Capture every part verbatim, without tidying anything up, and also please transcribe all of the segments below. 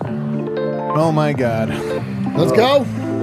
Oh my God. Let's go.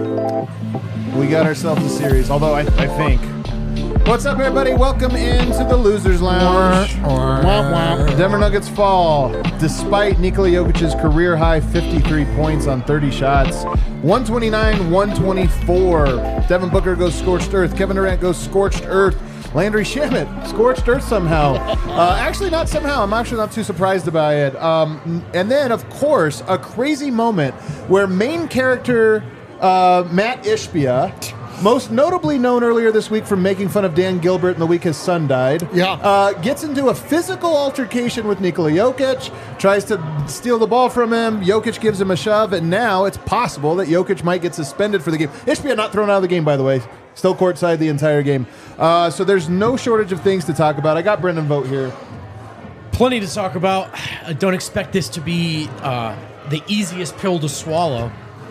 We got ourselves a series, although I, I think. What's up, everybody? Welcome into the Losers Lounge. Womp womp. Denver Nuggets fall despite Nikola Jokic's career high fifty-three points on thirty shots. one twenty-nine one twenty-four. Devin Booker goes scorched earth. Kevin Durant goes scorched earth. Landry Shamet scorched earth somehow. Uh, actually, not somehow. I'm actually not too surprised by it. Um, and then, of course, a crazy moment where main character uh, Matt Ishbia, most notably known earlier this week for making fun of Dan Gilbert in the week his son died, Yeah. uh, gets into a physical altercation with Nikola Jokic, tries to steal the ball from him. Jokic gives him a shove, and now it's possible that Jokic might get suspended for the game. Ishbia not thrown out of the game, by the way. Still courtside the entire game. Uh, so there's no shortage of things to talk about. I got Brendan Vogt here. Plenty to talk about. I don't expect this to be uh, the easiest pill to swallow.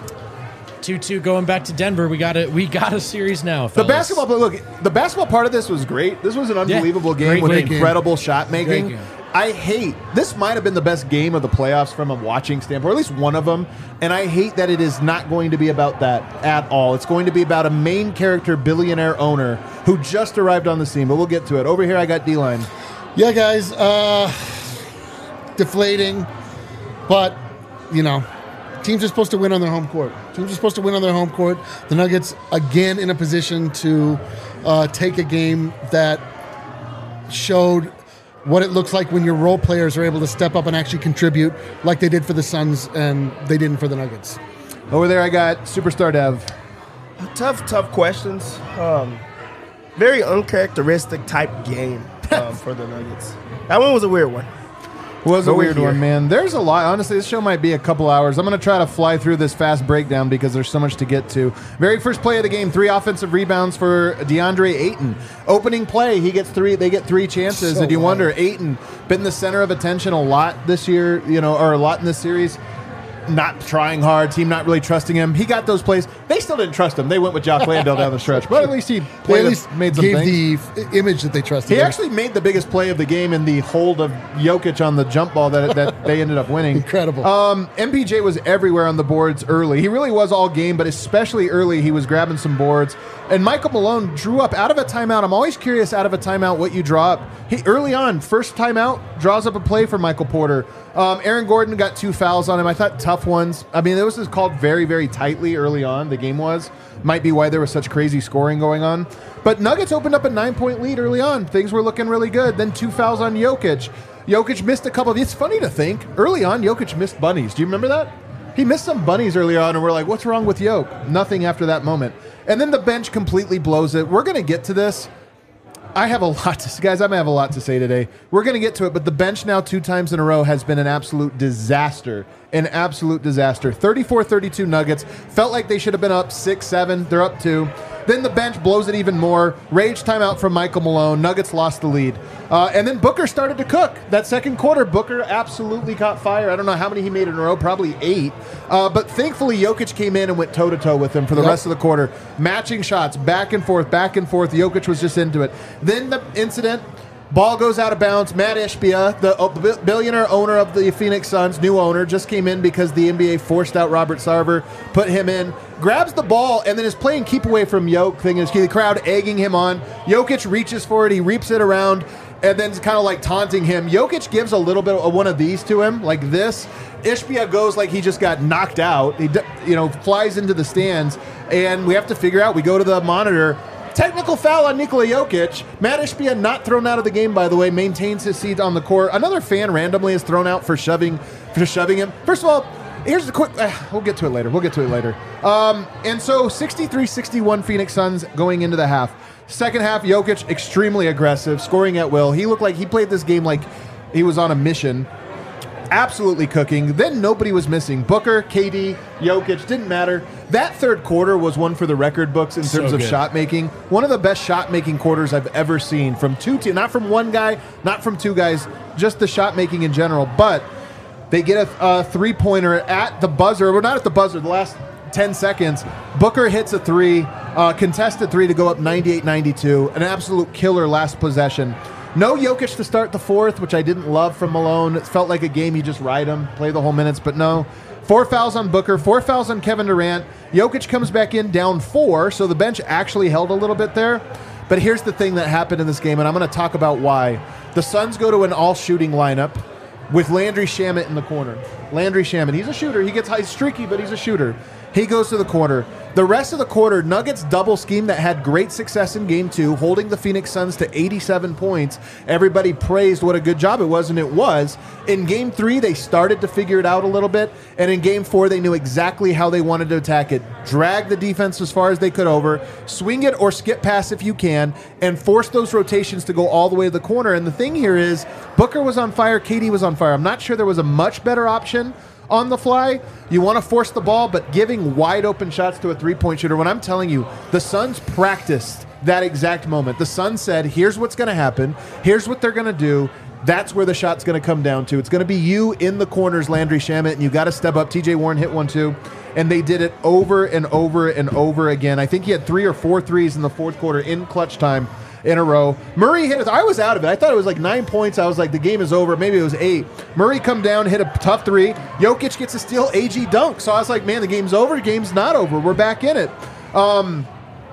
two two going back to Denver. We got a we got a series now. The Fellas. basketball, look, the basketball part of this was great. This was an unbelievable Yeah, game great with game. incredible shot making. Great game. I hate, this might have been the best game of the playoffs from a watching standpoint, or at least one of them, and I hate that it is not going to be about that at all. It's going to be about a main character billionaire owner who just arrived on the scene, but we'll get to it. Over here, I got D-Line. Yeah, guys. Uh, deflating, but, you know, teams are supposed to win on their home court. Teams are supposed to win on their home court. The Nuggets, again, in a position to uh, take a game that showed what it looks like when your role players are able to step up and actually contribute like they did for the Suns and they didn't for the Nuggets. Over there, I got Superstar Dev. Tough, tough questions. Um, very uncharacteristic type game um, for the Nuggets. That one was a weird one. Was a But we're weird here. one, man. There's a lot. Honestly, this show might be a couple hours. I'm going to try to fly through this fast breakdown because there's so much to get to. Very first play of the game, three offensive rebounds for DeAndre Ayton. Opening play, he gets three. They get three chances, So and you wild. wonder, Ayton been the center of attention a lot this year, you know, or a lot in this series. Not trying hard, team not really trusting him. He got those plays. They still didn't trust him. They went with Jock Landale down the stretch, but at least he They played at a- least made some gave things. the f- image that they trusted. He him. actually made the biggest play of the game in the hold of Jokic on the jump ball that that they ended up winning. Incredible. Um, M P J was everywhere on the boards early. He really was all game, but especially early, he was grabbing some boards. And Michael Malone drew up out of a timeout. I'm always curious out of a timeout what you draw up. He early on, first timeout, draws up a play for Michael Porter. Um, Aaron Gordon got two fouls on him. I thought tough ones. I mean, it was just called very, very tightly early on. The game was. Might be why there was such crazy scoring going on. But Nuggets opened up a nine-point lead early on. Things were looking really good. Then two fouls on Jokic. Jokic missed a couple of... It's funny to think. Early on, Jokic missed bunnies. Do you remember that? He missed some bunnies early on, and we're like, what's wrong with Jokic? Nothing after that moment. And then the bench completely blows it. We're going to get to this. I have a lot to guys. I'm gonna have a lot to say today. We're gonna get to it, but the bench now two times in a row has been an absolute disaster. An absolute disaster. thirty-four thirty-two Nuggets. Felt like they should have been up six, seven. They're up two. Then the bench blows it even more. Rage timeout from Michael Malone. Nuggets lost the lead. Uh, and then Booker started to cook. That second quarter, Booker absolutely caught fire. I don't know how many he made in a row, probably eight. Uh, but thankfully, Jokic came in and went toe-to-toe with him for the Yep. rest of the quarter. Matching shots, back and forth, back and forth. Jokic was just into it. Then the incident, ball goes out of bounds. Matt Ishbia, the uh, bi- billionaire owner of the Phoenix Suns, new owner, just came in because the N B A forced out Robert Sarver, put him in, grabs the ball, and then is playing keep away from Jokic. Thing is, the crowd egging him on. Jokic reaches for it. He reaps it around, and then kind of like taunting him. Jokic gives a little bit of one of these to him, like this. Ishbia goes like he just got knocked out. He, d- you know, flies into the stands, and we have to figure out. We go to the monitor. Technical foul on Nikola Jokic. Matt Ishbia not thrown out of the game, by the way, maintains his seat on the court. Another fan randomly is thrown out for shoving for shoving him. First of all, here's the quick... Uh, we'll get to it later. We'll get to it later. Um, and so sixty-three sixty-one Phoenix Suns going into the half. Second half, Jokic extremely aggressive, scoring at will. He looked like he played this game like he was on a mission. Absolutely cooking. Then nobody was missing. Booker, K D, Jokic, didn't matter. That third quarter was one for the record books in So terms of good. shot making. One of the best shot making quarters I've ever seen from two teams, not from one guy, not from two guys, just the shot making in general. But they get a, a three pointer at the buzzer. We're not at the buzzer. The last ten seconds, Booker hits a three, uh, contested three to go up ninety-eight ninety-two. An absolute killer last possession. No Jokic to start the fourth, which I didn't love from Malone. It felt like a game you just ride him, play the whole minutes, but no. Four fouls on Booker, four fouls on Kevin Durant. Jokic comes back in down four, so the bench actually held a little bit there. But here's the thing that happened in this game, and I'm going to talk about why. The Suns go to an all-shooting lineup with Landry Shamet in the corner. Landry Shamet, he's a shooter. He gets high, streaky, but he's a shooter. He goes to the corner. The rest of the quarter, Nuggets double scheme that had great success in game two, holding the Phoenix Suns to eighty-seven points. Everybody praised what a good job it was, and it was. In game three, they started to figure it out a little bit, and in game four, they knew exactly how they wanted to attack it. Drag the defense as far as they could over, swing it or skip pass if you can, and force those rotations to go all the way to the corner. And the thing here is, Booker was on fire, K D was on fire. I'm not sure there was a much better option on the fly. You want to force the ball, but giving wide open shots to a three-point shooter. When I'm telling you, the Suns practiced that exact moment. The Suns said, here's what's going to happen. Here's what they're going to do. That's where the shot's going to come down to. It's going to be you in the corners, Landry Shamet, and you got to step up. T J Warren hit one too, and they did it over and over and over again. I think he had three or four threes in the fourth quarter in clutch time in a row. Murray hit it. I was out of it. I thought it was like nine points. I was like, the game is over. Maybe it was eight. Murray come down, hit a tough three. Jokic gets a steal. A G dunk. So I was like, man, the game's over. The game's not over. We're back in it. Um,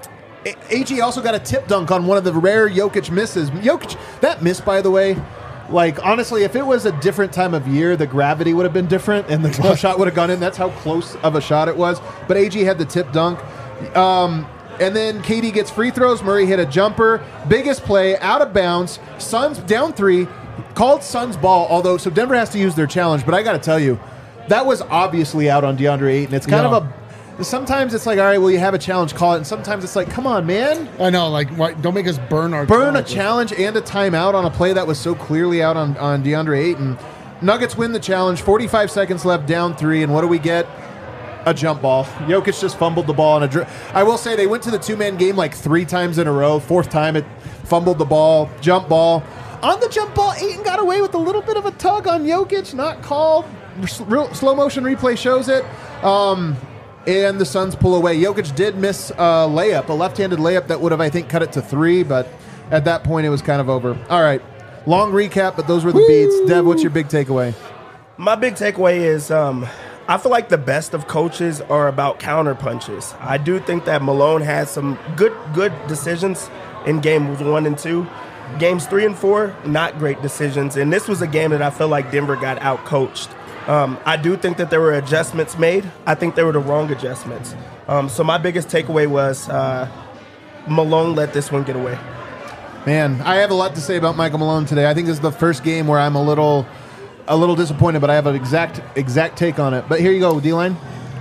A G also got a tip dunk on one of the rare Jokic misses. Jokic, that miss, by the way, like, honestly, if it was a different time of year, the gravity would have been different and the shot would have gone in. That's how close of a shot it was. But A G had the tip dunk. Um, And then K D gets free throws. Murray hit a jumper. Biggest play, out of bounds. Suns down three. Called Suns ball, although, so Denver has to use their challenge. But I got to tell you, that was obviously out on DeAndre Ayton. It's kind Yeah. of a, sometimes it's like, all right, well, you have a challenge, call it. And sometimes it's like, come on, man. I know, like, why, don't make us burn our Burn a challenge. challenge and a timeout on a play that was so clearly out on, on DeAndre Ayton. Nuggets win the challenge. forty-five seconds left, down three. And what do we get? A jump ball. Jokic just fumbled the ball on a dri- I will say they went to the two-man game like three times in a row. Fourth time it fumbled the ball, jump ball. On the jump ball, Ayton got away with a little bit of a tug on Jokic, not called. Real slow motion replay shows it. Um, and the Suns pull away. Jokic did miss a layup, a left-handed layup that would have, I think, cut it to three, but at that point it was kind of over. All right. Long recap, but those were the Woo! beats. Dev, what's your big takeaway? My big takeaway is um, I feel like the best of coaches are about counter punches. I do think that Malone had some good good decisions in games one and two. Games three and four, not great decisions. And this was a game that I feel like Denver got out-coached. Um, I do think that there were adjustments made. I think they were the wrong adjustments. Um, so my biggest takeaway was uh, Malone let this one get away. Man, I have a lot to say about Michael Malone today. I think this is the first game where I'm a little... a little disappointed, but I have an exact exact take on it. But here you go, D-Line.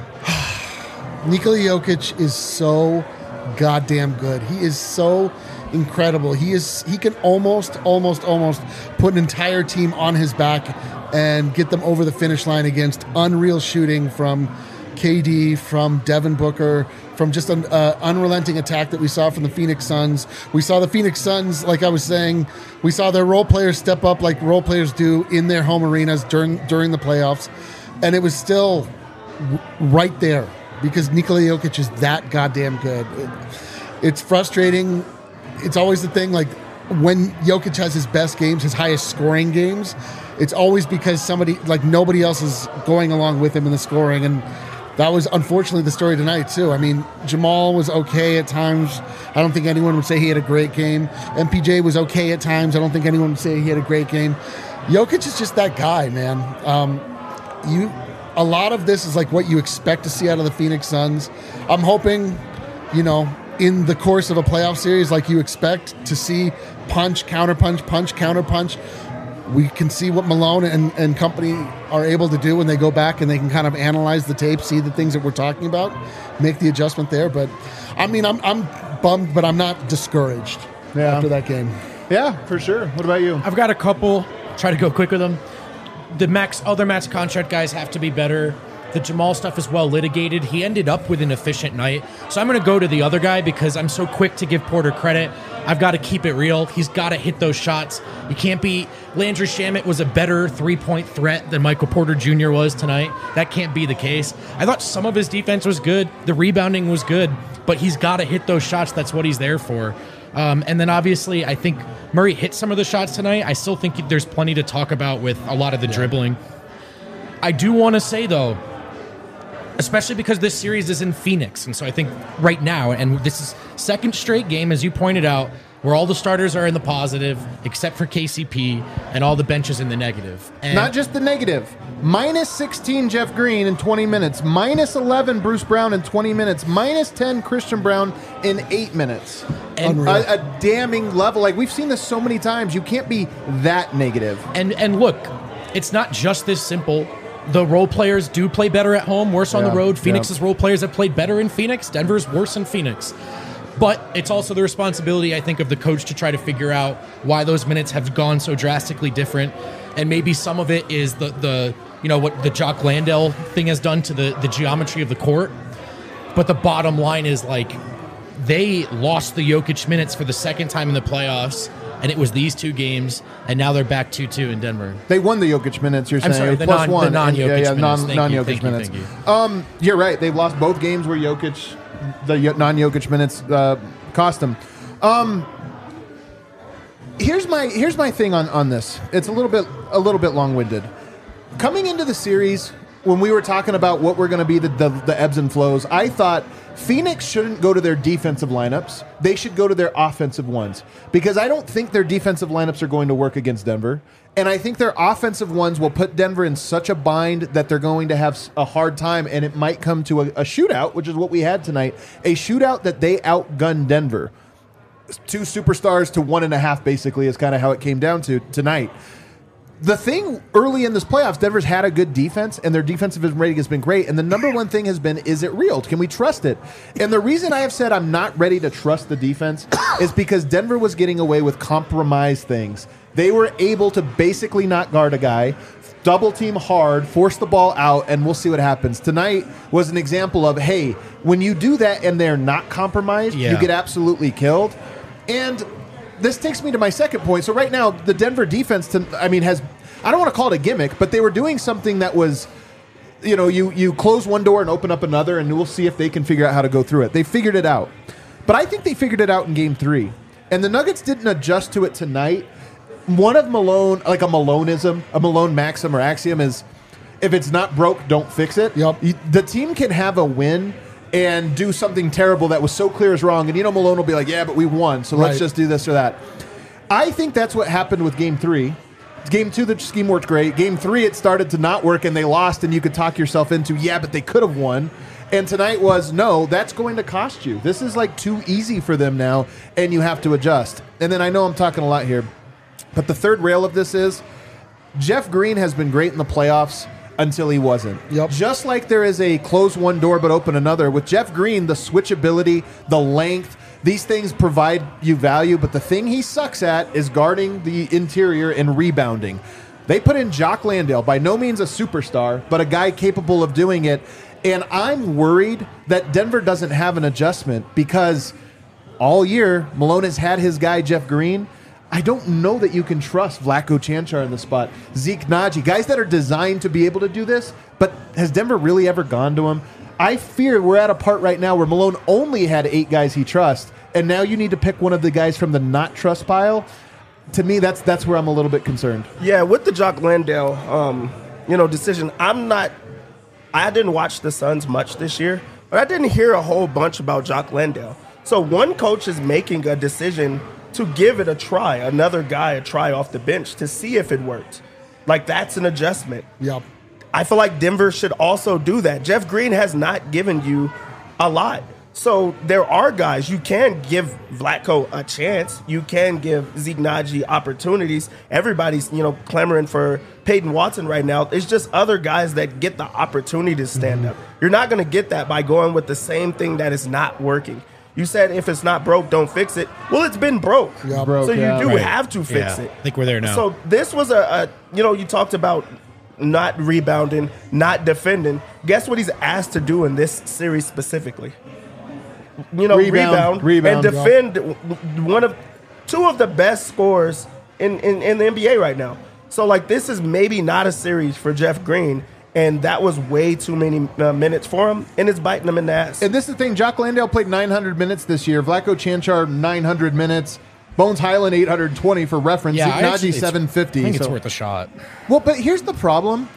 Nikola Jokic is so goddamn good. He is so incredible. He is he can almost, almost, almost put an entire team on his back and get them over the finish line against unreal shooting from K D, from Devin Booker, from just an uh, unrelenting attack that we saw from the Phoenix Suns. We saw the Phoenix Suns, like I was saying, we saw their role players step up like role players do in their home arenas during during the playoffs. And it was still w- right there because Nikola Jokic is that goddamn good. It, it's frustrating. It's always the thing, like when Jokic has his best games, his highest scoring games, it's always because somebody, like nobody else is going along with him in the scoring. And that was unfortunately the story tonight too. I mean, Jamal was okay at times. I don't think anyone would say he had a great game. M P J was okay at times. I don't think anyone would say he had a great game. Jokic is just that guy, man. Um, you, a lot of this is like what you expect to see out of the Phoenix Suns. I'm hoping, you know, in the course of a playoff series, like you expect to see punch, counter punch, punch, counter punch. We can see what Malone and, and company are able to do when they go back and they can kind of analyze the tape, see the things that we're talking about, make the adjustment there. But I mean, I'm I'm bummed, but I'm not discouraged Yeah. after that game. Yeah, for sure. What about you? I've got a couple. Try to go quick with them. The max other max contract guys have to be better. The Jamal stuff is well litigated. He ended up with an efficient night. So I'm going to go to the other guy because I'm so quick to give Porter credit. I've got to keep it real. He's got to hit those shots. You can't be... Landry Shamet was a better three-point threat than Michael Porter Junior was tonight. That can't be the case. I thought some of his defense was good. The rebounding was good. But he's got to hit those shots. That's what he's there for. Um, and then obviously, I think Murray hit some of the shots tonight. I still think there's plenty to talk about with a lot of the yeah. dribbling. I do want to say, though, especially because this series is in Phoenix, and so I think right now, and this is second straight game, as you pointed out, where all the starters are in the positive, except for K C P, and all the benches in the negative. And not just the negative. Minus sixteen Jeff Green in twenty minutes. Minus eleven Bruce Brown in twenty minutes. Minus ten Christian Brown in eight minutes. And a, a damning level. Like, we've seen this so many times. You can't be that negative. And and look, it's not just this simple. The role players do play better at home, worse on yeah, the road. Phoenix's yeah. role players have played better in Phoenix. Denver's worse in Phoenix. But it's also the responsibility, I think, of the coach to try to figure out why those minutes have gone so drastically different. And maybe some of it is the, the you know, what the Jock Landale thing has done to the, the geometry of the court. But the bottom line is, like, they lost the Jokic minutes for the second time in the playoffs, and it was these two games, and now they're back two two in Denver. They won the Jokic minutes, you're I'm saying. sorry, the plus non, one. the non-Jokic yeah, yeah, minutes. non, Thank non-Jokic you, thank minutes. You, thank you. Um, you're right. They've lost both games where Jokic, the non-Jokic minutes uh, cost them. Um, here's my here's my thing on, on this. It's a little bit a little bit long-winded. Coming into the series, when we were talking about what were going to be the, the the ebbs and flows, I thought Phoenix shouldn't go to their defensive lineups. They should go to their offensive ones, because I don't think their defensive lineups are going to work against Denver. And I think their offensive ones will put Denver in such a bind that they're going to have a hard time, and it might come to a, a shootout, which is what we had tonight, a shootout that they outgunned Denver. Two superstars to one and a half, basically, is kind of how it came down to tonight. The thing early in this playoffs, Denver's had a good defense, and their defensive rating has been great. And the number one thing has been, is it real? Can we trust it? And the reason I have said I'm not ready to trust the defense is because Denver was getting away with compromise things. They were able to basically not guard a guy, double team hard, force the ball out, and we'll see what happens. Tonight was an example of, hey, when you do that and they're not compromised, yeah. you get absolutely killed. And this takes me to my second point. So right now, the Denver defense, to, I mean, has, I don't want to call it a gimmick, but they were doing something that was, you know, you, you close one door and open up another, and we'll see if they can figure out how to go through it. They figured it out. But I think they figured it out in game three. And the Nuggets didn't adjust to it tonight. One of Malone, like a Maloneism, a Malone maxim or axiom is, if it's not broke, don't fix it. Yep. You, the team can have a win and do something terrible that was so clear as wrong. And, you know, Malone will be like, yeah, but we won, so right. let's just do this or that. I think that's what happened with game three. Game two, the scheme worked great. Game three, it started to not work, and they lost, and you could talk yourself into, yeah, but they could have won. And tonight was, no, that's going to cost you. This is like too easy for them now, and you have to adjust. And then I know I'm talking a lot here, but the third rail of this is Jeff Green has been great in the playoffs until he wasn't. Yep. Just like there is a close one door but open another, with Jeff Green, the switchability, the length, these things provide you value, but the thing he sucks at is guarding the interior and rebounding. They put in Jock Landale, by no means a superstar, but a guy capable of doing it. And I'm worried that Denver doesn't have an adjustment, because all year Malone has had his guy Jeff Green. I don't know that you can trust Vlatko Chanchar in the spot. Zeke Naji, guys that are designed to be able to do this, but has Denver really ever gone to him? I fear we're at a part right now where Malone only had eight guys he trusts, and now you need to pick one of the guys from the not trust pile. To me, that's that's where I'm a little bit concerned. Yeah, with the Jock Landale, um, you know, decision, I'm not. I didn't watch the Suns much this year, but I didn't hear a whole bunch about Jock Landale. So one coach is making a decision to give it a try, another guy a try off the bench to see if it worked. Like, that's an adjustment. Yep. I feel like Denver should also do that. Jeff Green has not given you a lot. So there are guys, you can give Vlatko a chance. You can give Zeke Naji opportunities. Everybody's, you know, clamoring for Peyton Watson right now. It's just other guys that get the opportunity to stand Mm-hmm. up. You're not going to get that by going with the same thing that is not working. You said if it's not broke, don't fix it. Well, it's been broke. Yeah. Broke, so you yeah. do Right. have to fix Yeah, it. I think we're there now. So this was a, a, you know, you talked about not rebounding, not defending. Guess what he's asked to do in this series specifically? You know, Rebound, rebound, rebound, and defend one of two of the best scorers in, in, in the N B A right now. So, like, this is maybe not a series for Jeff Green. And that was way too many uh, minutes for him, and it's biting him in the ass. And this is the thing, Jock Landale played nine hundred minutes this year. Vlatko Čančar, nine hundred minutes. Bones Highland, eight hundred twenty for reference. Yeah, I actually- Ignaji, seven fifty. I think it's So- worth a shot. Well, but here's the problem.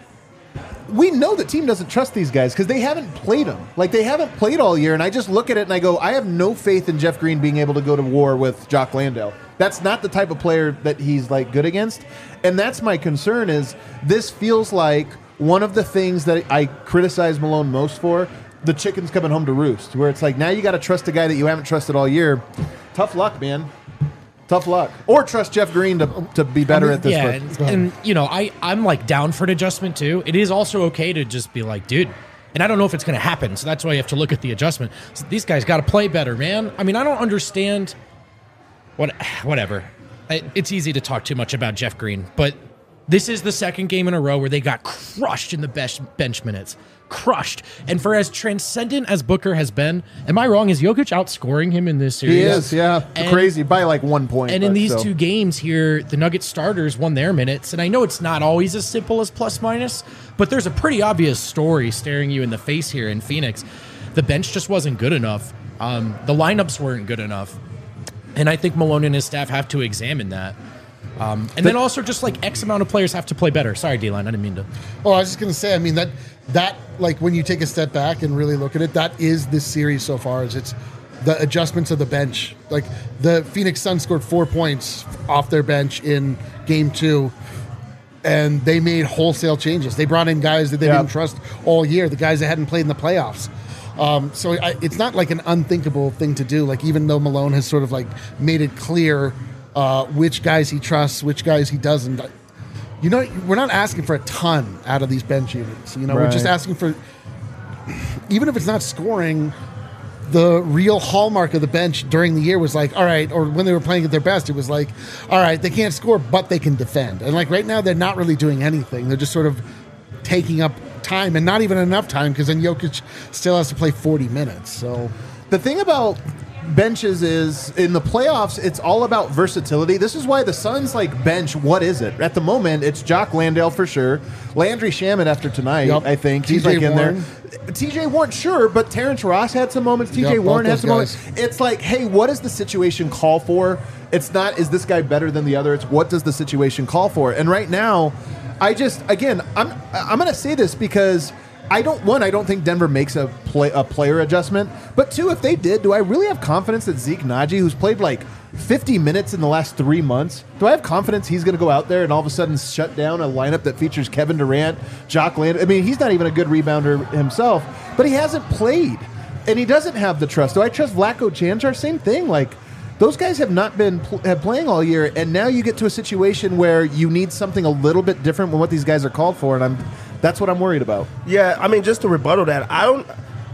We know the team doesn't trust these guys because they haven't played them. Like, they haven't played all year, and I just look at it and I go, I have no faith in Jeff Green being able to go to war with Jock Landale. That's not the type of player that he's, like, good against. And that's my concern is this feels like one of the things that I criticize Malone most for, the chicken's coming home to roost, where it's like, now you got to trust a guy that you haven't trusted all year. Tough luck, man. Tough luck. Or trust Jeff Green to, to be better I mean, at this. Yeah, but- and, and you know, I I'm like down for an adjustment too. It is also okay to just be like, dude. And I don't know if it's going to happen, so that's why you have to look at the adjustment. So these guys got to play better, man. I mean, I don't understand. What, whatever. I, it's easy to talk too much about Jeff Green, but this is the second game in a row where they got crushed in the best bench minutes. Crushed. And for as transcendent as Booker has been, am I wrong? Is Jokic outscoring him in this series? He is, yeah. And- Crazy by like one point. And in but these so. two games here, the Nuggets starters won their minutes. And I know it's not always as simple as plus minus, but there's a pretty obvious story staring you in the face here in Phoenix. The bench just wasn't good enough. Um, the lineups weren't good enough. And I think Malone and his staff have to examine that. Um, and then also just like X amount of players have to play better. Sorry, D-Line, I didn't mean to. Oh, I was just going to say, I mean, that, that like, when you take a step back and really look at it, that is this series so far, is it's the adjustments of the bench. Like, the Phoenix Suns scored four points off their bench in game two, and they made wholesale changes. They brought in guys that they Yeah. didn't trust all year, the guys that hadn't played in the playoffs. Um, so I, it's not like an unthinkable thing to do. Like, even though Malone has sort of like made it clear uh, which guys he trusts, which guys he doesn't. You know, we're not asking for a ton out of these bench units. You know, we're just Right. asking for, even if it's not scoring, the real hallmark of the bench during the year was like, all right, or when they were playing at their best, it was like, all right, they can't score, but they can defend. And like right now, they're not really doing anything. They're just sort of taking up time, and not even enough time, because then Jokic still has to play forty minutes. So The thing about benches is in the playoffs, it's all about versatility. This is why the Suns like bench. What is it at the moment? It's Jock Landale for sure. Landry Shamet after tonight, Yep. I think he's T J like in Warren. there. T J Warren, sure, but Terrence Ross had some moments. T J Yep, both Warren had those some guys. moments. It's like, hey, what does the situation call for? It's not is this guy better than the other. It's what does the situation call for? And right now, I just again, I'm I'm going to say this because. I don't one. I don't think Denver makes a play a player adjustment. But two, if they did, do I really have confidence that Zeke Naji, who's played like fifty minutes in the last three months, do I have confidence he's going to go out there and all of a sudden shut down a lineup that features Kevin Durant, Jock Landale? I mean, he's not even a good rebounder himself, but he hasn't played, and he doesn't have the trust. Do I trust Vlatko Čančar? Same thing. Like those guys have not been pl- have playing all year, and now you get to a situation where you need something a little bit different than what these guys are called for, and I'm. That's what I'm worried about. Yeah, I mean, just to rebuttal that, I don't.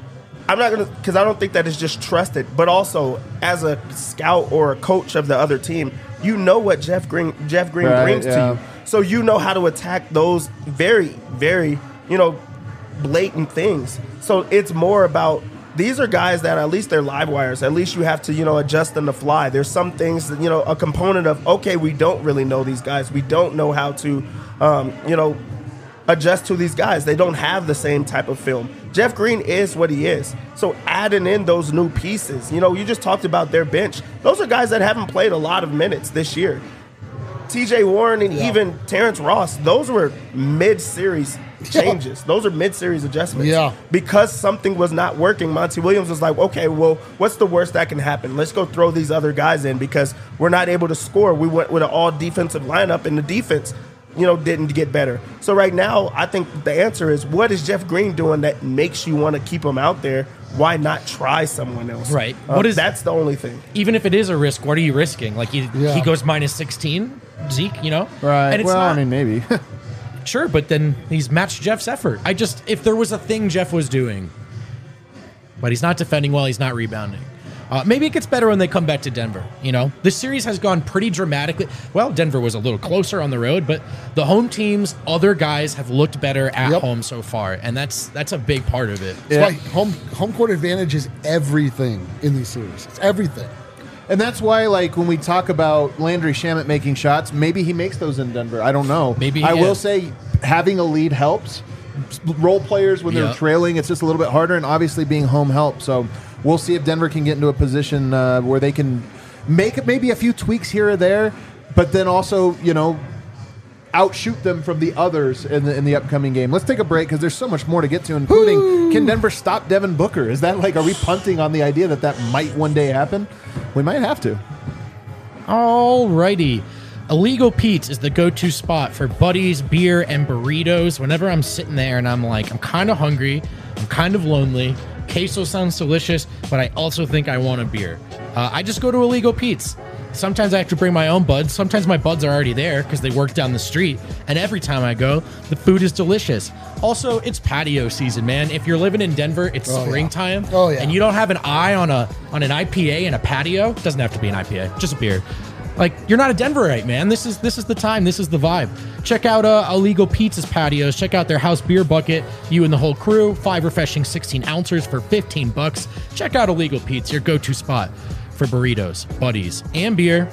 I'm not gonna, because I don't think that is just trusted, but also as a scout or a coach of the other team, you know what Jeff Green Jeff Green Right, brings yeah. to you, so you know how to attack those very, very, you know, blatant things. So it's more about these are guys that at least they're live wires. At least you have to, you know, adjust on the fly. There's some things that, you know, a component of okay, we don't really know these guys. We don't know how to, um, you know. adjust to these guys. They don't have the same type of film. Jeff Green is what he is. So adding in those new pieces, you know, you just talked about their bench. Those are guys that haven't played a lot of minutes this year. T J Warren and Yeah. even Terrence Ross, those were mid-series changes. Those are mid-series adjustments. Yeah. Because something was not working, Monty Williams was like, okay, well, what's the worst that can happen? Let's go throw these other guys in because we're not able to score. We went with an all-defensive lineup, and the defense you know, didn't get better. So right now, I think the answer is, what is Jeff Green doing that makes you want to keep him out there? Why not try someone else? Right. Uh, What is- that's the only thing. Even if it is a risk, what are you risking? Like he Yeah. he goes minus sixteen, Zeke, you know? Right. And it's well, not, I mean, maybe. sure, but then he's matched Jeff's effort. I just, if there was a thing Jeff was doing, but he's not defending well, he's not rebounding. Uh, maybe it gets better when they come back to Denver. You know, this series has gone pretty dramatically. Well, Denver was a little closer on the road, but the home teams, other guys have looked better at Yep. home so far, and that's that's a big part of it. that's why home home court advantage is everything in these series. It's everything. And that's why, like, when we talk about Landry Shamet making shots, maybe he makes those in Denver. I don't know. Maybe, I yeah. will say having a lead helps, role players when they're Yep. trailing. It's just a little bit harder, and obviously being home help. So we'll see if Denver can get into a position uh, where they can make maybe a few tweaks here or there, but then also, you know, outshoot them from the others in the in the upcoming game. Let's take a break because there's so much more to get to, including Woo! Can Denver stop Devin Booker? Is that like, are we punting on the idea that that might one day happen? We might have to. Alrighty. Illegal Pete's is the go-to spot for buddies, beer, and burritos. Whenever I'm sitting there and I'm like, I'm kind of hungry, I'm kind of lonely, queso sounds delicious, but I also think I want a beer. Uh, I just go to Illegal Pete's. Sometimes I have to bring my own buds. Sometimes my buds are already there because they work down the street. And every time I go, the food is delicious. Also, it's patio season, man. If you're living in Denver, it's Oh, yeah. springtime. Oh, yeah. And you don't have an eye on a on an I P A and a patio. It doesn't have to be an I P A, just a beer. Like, you're not a Denverite, man. This is this is the time. This is the vibe. Check out uh, Illegal Pizza's patios. Check out their house beer bucket. You and the whole crew. Five refreshing sixteen ounces for fifteen bucks. Check out Illegal Pizza, your go-to spot for burritos, buddies, and beer.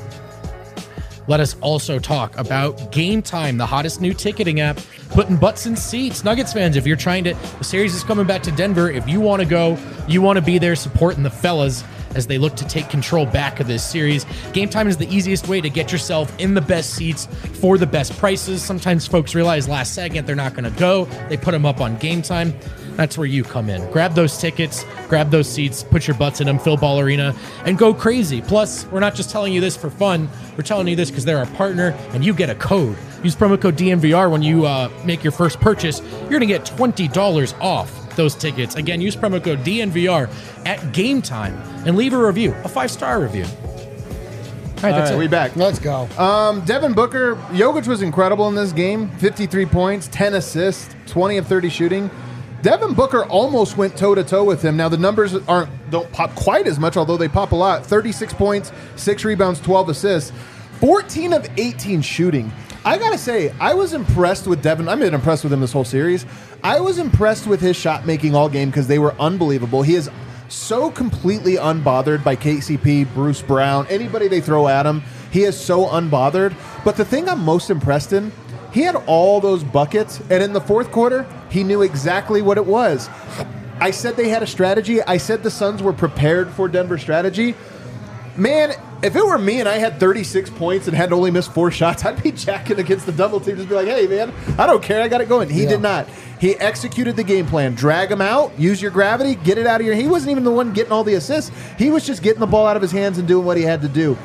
Let us also talk about Game Time, the hottest new ticketing app, putting butts in seats. Nuggets fans, if you're trying to, the series is coming back to Denver. If you want to go, you want to be there supporting the fellas as they look to take control back of this series. Game Time is the easiest way to get yourself in the best seats for the best prices. Sometimes folks realize last second they're not going to go. They put them up on Game Time. That's where you come in. Grab those tickets, grab those seats, put your butts in them, fill Ball Arena, and go crazy. Plus, we're not just telling you this for fun. We're telling you this because they're our partner, and you get a code. Use promo code D N V R when you uh, make your first purchase. You're going to get twenty dollars off those tickets. Again, use promo code D N V R at Game Time and leave a review, a five-star review. All right, that's All right, it. we back. Let's go. Um, Devin Booker, Jokic was incredible in this game. fifty-three points, ten assists, twenty of thirty shooting. Devin Booker almost went toe-to-toe with him. Now, the numbers aren't don't pop quite as much, although they pop a lot. thirty-six points, six rebounds, twelve assists, fourteen of eighteen shooting. I got to say, I was impressed with Devin. I've been impressed with him this whole series. I was impressed with his shot-making all game because they were unbelievable. He is so completely unbothered by K C P, Bruce Brown, anybody they throw at him. He is so unbothered. But the thing I'm most impressed in, he had all those buckets, and in the fourth quarter, he knew exactly what it was. I said they had a strategy. I said the Suns were prepared for Denver's strategy. Man, if it were me and I had thirty-six points and had only missed four shots, I'd be jacking against the double team. Just be like, hey, man, I don't care. I got it going. He Yeah. did not. He executed the game plan. Drag him out. Use your gravity. Get it out of your... He wasn't even the one getting all the assists. He was just getting the ball out of his hands and doing what he had to do.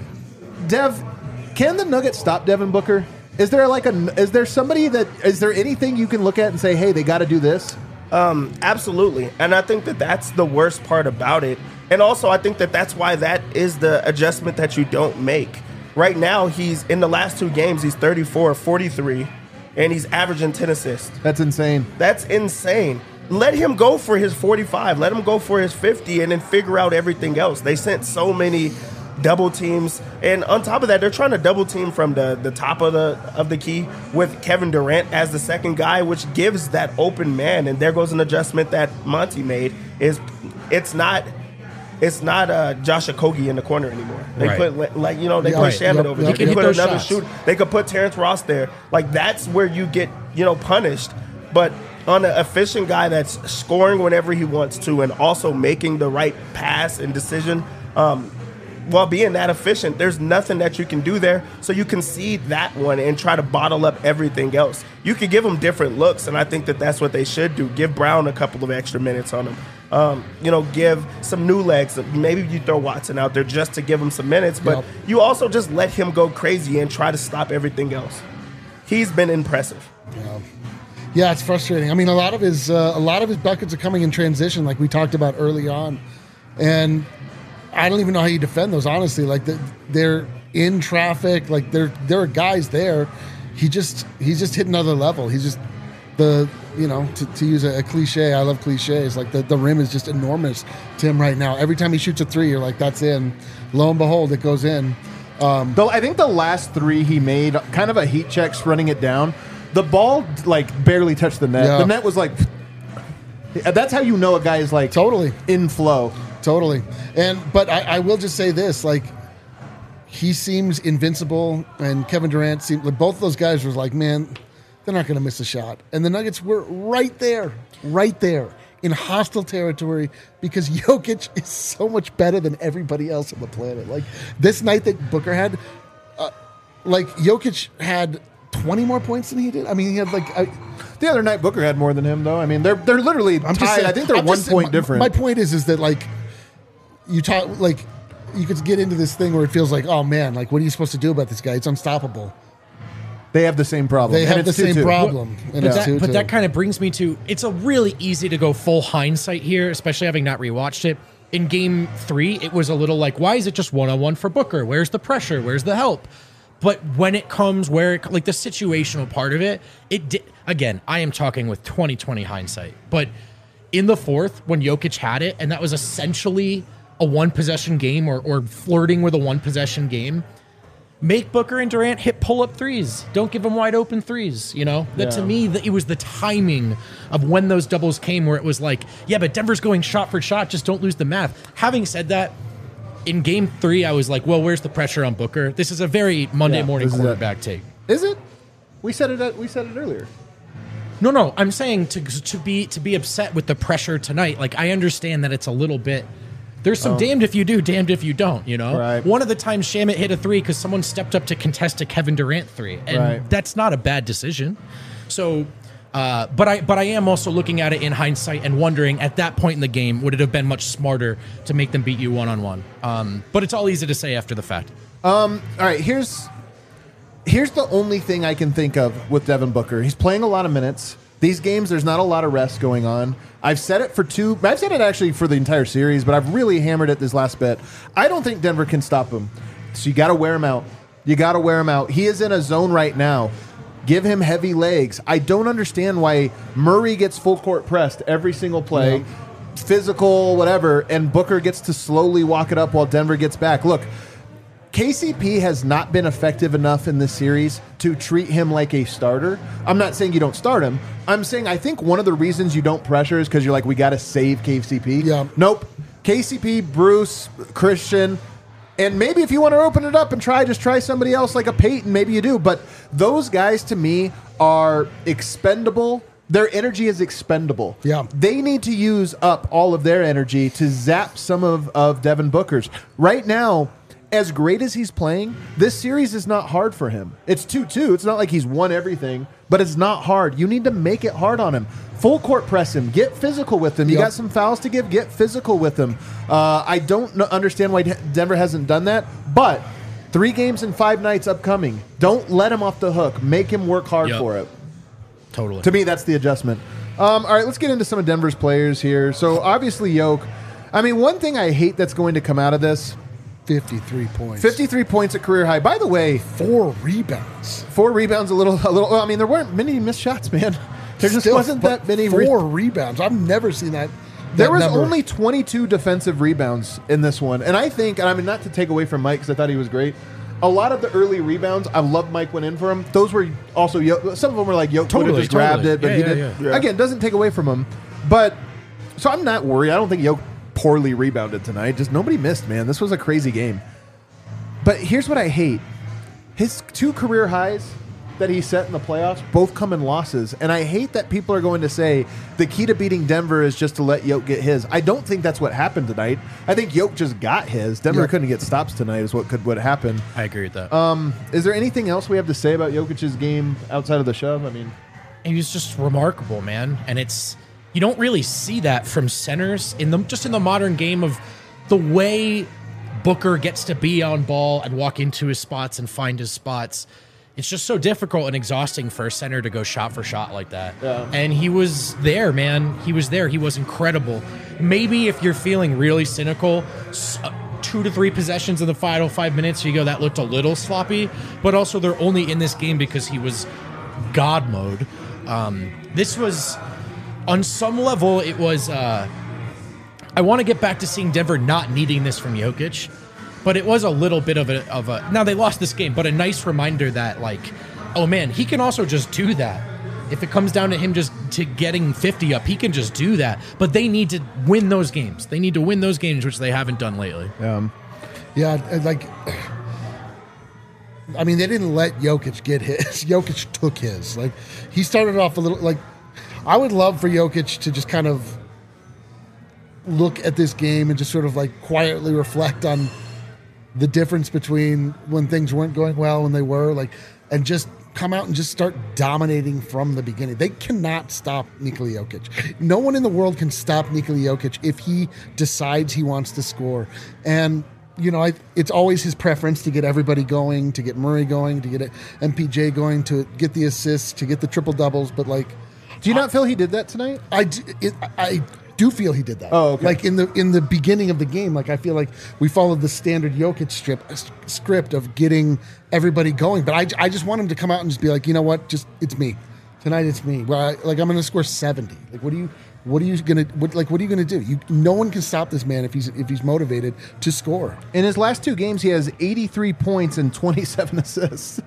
Dev, can the Nuggets stop Devin Booker? Is there like a... Is there somebody that... Is there anything you can look at and say, hey, they got to do this? Um, absolutely. And I think that that's the worst part about it. And also, I think that that's why that is the adjustment that you don't make. Right now, he's in the last two games, he's thirty-four, forty-three, and he's averaging ten assists. That's insane. That's insane. Let him go for his forty-five. Let him go for his fifty and then figure out everything else. They sent so many double teams. And on top of that, they're trying to double team from the, the top of the of the key with Kevin Durant as the second guy, which gives that open man. And there goes an adjustment that Monty made. Is it's not it's not uh, Josh Okogie in the corner anymore. They Right. put like you know they Yeah, put right. Shaman Yep, over yep, there. yep. They put Hit those another shots. shooter. They could put Terrence Ross there. Like that's where you get you know punished. But on an efficient guy that's scoring whenever he wants to and also making the right pass and decision, um, while being that efficient, there's nothing that you can do there. So you concede that one and try to bottle up everything else. You could give them different looks, and I think that that's what they should do. Give Brown a couple of extra minutes on him. Um, you know, give some new legs. Maybe you throw Watson out there just to give him some minutes, but Yep. you also just let him go crazy and try to stop everything else. He's been impressive. Yeah. Yeah, it's frustrating. I mean, a lot of his uh, a lot of his buckets are coming in transition, like we talked about early on, and I don't even know how you defend those. Honestly, like the, they're in traffic, like there there are guys there. He just he's just hit another level. He's just the you know to, to use a, a cliche. I love cliches. Like the, the rim is just enormous to him right now. Every time he shoots a three, you're like, that's in. Lo and behold, it goes in. Though I think the last three he made, kind of a heat check, running it down. The ball like barely touched the net. Yeah. The net was like. That's how you know a guy is like Totally. in flow. Totally. And but I, I will just say this, like he seems invincible and Kevin Durant seemed like both of those guys was like, man, they're not going to miss a shot. And the Nuggets were right there, right there in hostile territory because Jokic is so much better than everybody else on the planet. Like this night that Booker had, uh, like Jokic had twenty more points than he did. I mean, he had like I, the other night Booker had more than him though. I mean, they're they're literally I'm tied. just saying, I think they're I'm one just- point my, different. My point is, is that like you talk like you could get into this thing where it feels like, oh man, like what are you supposed to do about this guy? It's unstoppable. They have the same problem. They and have the it's same two two. problem. And But, it's that, two but two. that kind of brings me to it's a really easy to go full hindsight here, especially having not rewatched it. In game three, it was a little like, why is it just one on one for Booker? Where's the pressure? Where's the help? But when it comes where it, like the situational part of it, it di- again, I am talking with twenty twenty hindsight. But in the fourth, when Jokic had it, and that was essentially a one possession game or, or flirting with a one possession game, make Booker and Durant hit pull-up threes. Don't give them wide open threes, you know? That to Yeah. me, that it was the timing of when those doubles came where it was like, yeah, but Denver's going shot for shot, just don't lose the math. Having said that, in game three, I was like, well, where's the pressure on Booker? This is a very Monday Yeah, morning this is it. quarterback take. Is it? We said it. At, we said it earlier. No, no, I'm saying to to be to be upset with the pressure tonight. Like, I understand that it's a little bit. There's some damned if you do, damned if you don't, you know? Right. One of the times Shamit hit a three because someone stepped up to contest a Kevin Durant three. And Right. that's not a bad decision. So, uh, but I but I am also looking at it in hindsight and wondering at that point in the game, would it have been much smarter to make them beat you one-on-one? Um, but it's all easy to say after the fact. All right, here's here's the only thing I can think of with Devin Booker. He's playing a lot of minutes. These games, there's not a lot of rest going on. I've said it for two. I've said it actually for the entire series, but I've really hammered it this last bit. I don't think Denver can stop him. So you got to wear him out. You got to wear him out. He is in a zone right now. Give him heavy legs. I don't understand why Murray gets full court pressed every single play, Yeah. physical, whatever, and Booker gets to slowly walk it up while Denver gets back. Look, K C P has not been effective enough in this series to treat him like a starter. I'm not saying you don't start him. I'm saying I think one of the reasons you don't pressure is because you're like, we got to save K C P. Yeah. Nope. K C P, Bruce, Christian, and maybe if you want to open it up and try, just try somebody else like a Peyton, maybe you do. But those guys to me are expendable. Their energy is expendable. Yeah. They need to use up all of their energy to zap some of, of Devin Booker's. Right now, as great as he's playing, this series is not hard for him. It's two two. It's not like he's won everything, but it's not hard. You need to make it hard on him. Full court press him. Get physical with him. You Yep. got some fouls to give. Get physical with him. Uh, I don't kn- understand why De- Denver hasn't done that, but three games in five nights upcoming. Don't let him off the hook. Make him work hard Yep. for it. Totally. To me, that's the adjustment. Um, all right, let's get into some of Denver's players here. So obviously, Yoke. I mean, one thing I hate that's going to come out of this: fifty-three points. fifty-three points at career high. By the way, Four rebounds. four rebounds, a little, a little. I mean, there weren't many missed shots, man. There just Still, wasn't but that many. Four Re- rebounds. I've never seen that. there that was number. only twenty-two defensive rebounds in this one, and I think, and I mean, not to take away from Mike because I thought he was great. A lot of the early rebounds, I love Mike went in for him. Those were also Yoke. Some of them were like Yoke would have Totally, just grabbed totally. it, but Yeah, he yeah, did. yeah. Yeah. Again, doesn't take away from him. But so I'm not worried. I don't think Yoke poorly rebounded tonight. Just nobody missed, man. This was a crazy game. But here's what I hate: his two career highs that he set in the playoffs both come in losses, and I hate that people are going to say the key to beating Denver is just to let Yoke get his. I don't think that's what happened tonight. I think Yoke just got his. Denver Yeah. couldn't get stops tonight, is what could what happened. I agree with that. Um, is there anything else we have to say about Jokic's game outside of the shove? I mean, he was just remarkable, man. And it's you don't really see that from centers in the just in the modern game of the way Booker gets to be on ball and walk into his spots and find his spots. It's just so difficult and exhausting for a center to go shot for shot like that. Yeah. And he was there, man. He was there. He was incredible. Maybe if you're feeling really cynical, s- uh, two to three possessions in the final five minutes, you go, that looked a little sloppy. But also, they're only in this game because he was God mode. Um, this was, on some level, it was. Uh, I want to get back to seeing Denver not needing this from Jokic. But it was a little bit of a, of a, now they lost this game, but a nice reminder that like, oh man, he can also just do that. If it comes down to him just to getting fifty up, he can just do that. But they need to win those games. They need to win those games, which they haven't done lately. um, Yeah, and, like I mean, they didn't let Jokic get his. Jokic took his. Like, he started off a little, like, I would love for Jokic to just kind of look at this game and just sort of, like, quietly reflect on the difference between when things weren't going well and they were, like, and just come out and just start dominating from the beginning. They cannot stop Nikola Jokic. No one in the world can stop Nikola Jokic if he decides he wants to score. And you know, I, it's always his preference to get everybody going, to get Murray going, to get M P J going, to get the assists, to get the triple doubles. But like, do you not I, feel he did that tonight? I, do, it, I do feel he did that. Oh, okay. Like in the in the beginning of the game, like I feel like we followed the standard Jokic strip script of getting everybody going. But I, I just want him to come out and just be like, you know what, just it's me tonight. It's me. Well, I, like I'm going to score seventy. Like what do you? What are you gonna what, like? What are you gonna do? You, no one can stop this man if he's if he's motivated to score. In his last two games, he has eighty-three points and twenty-seven assists.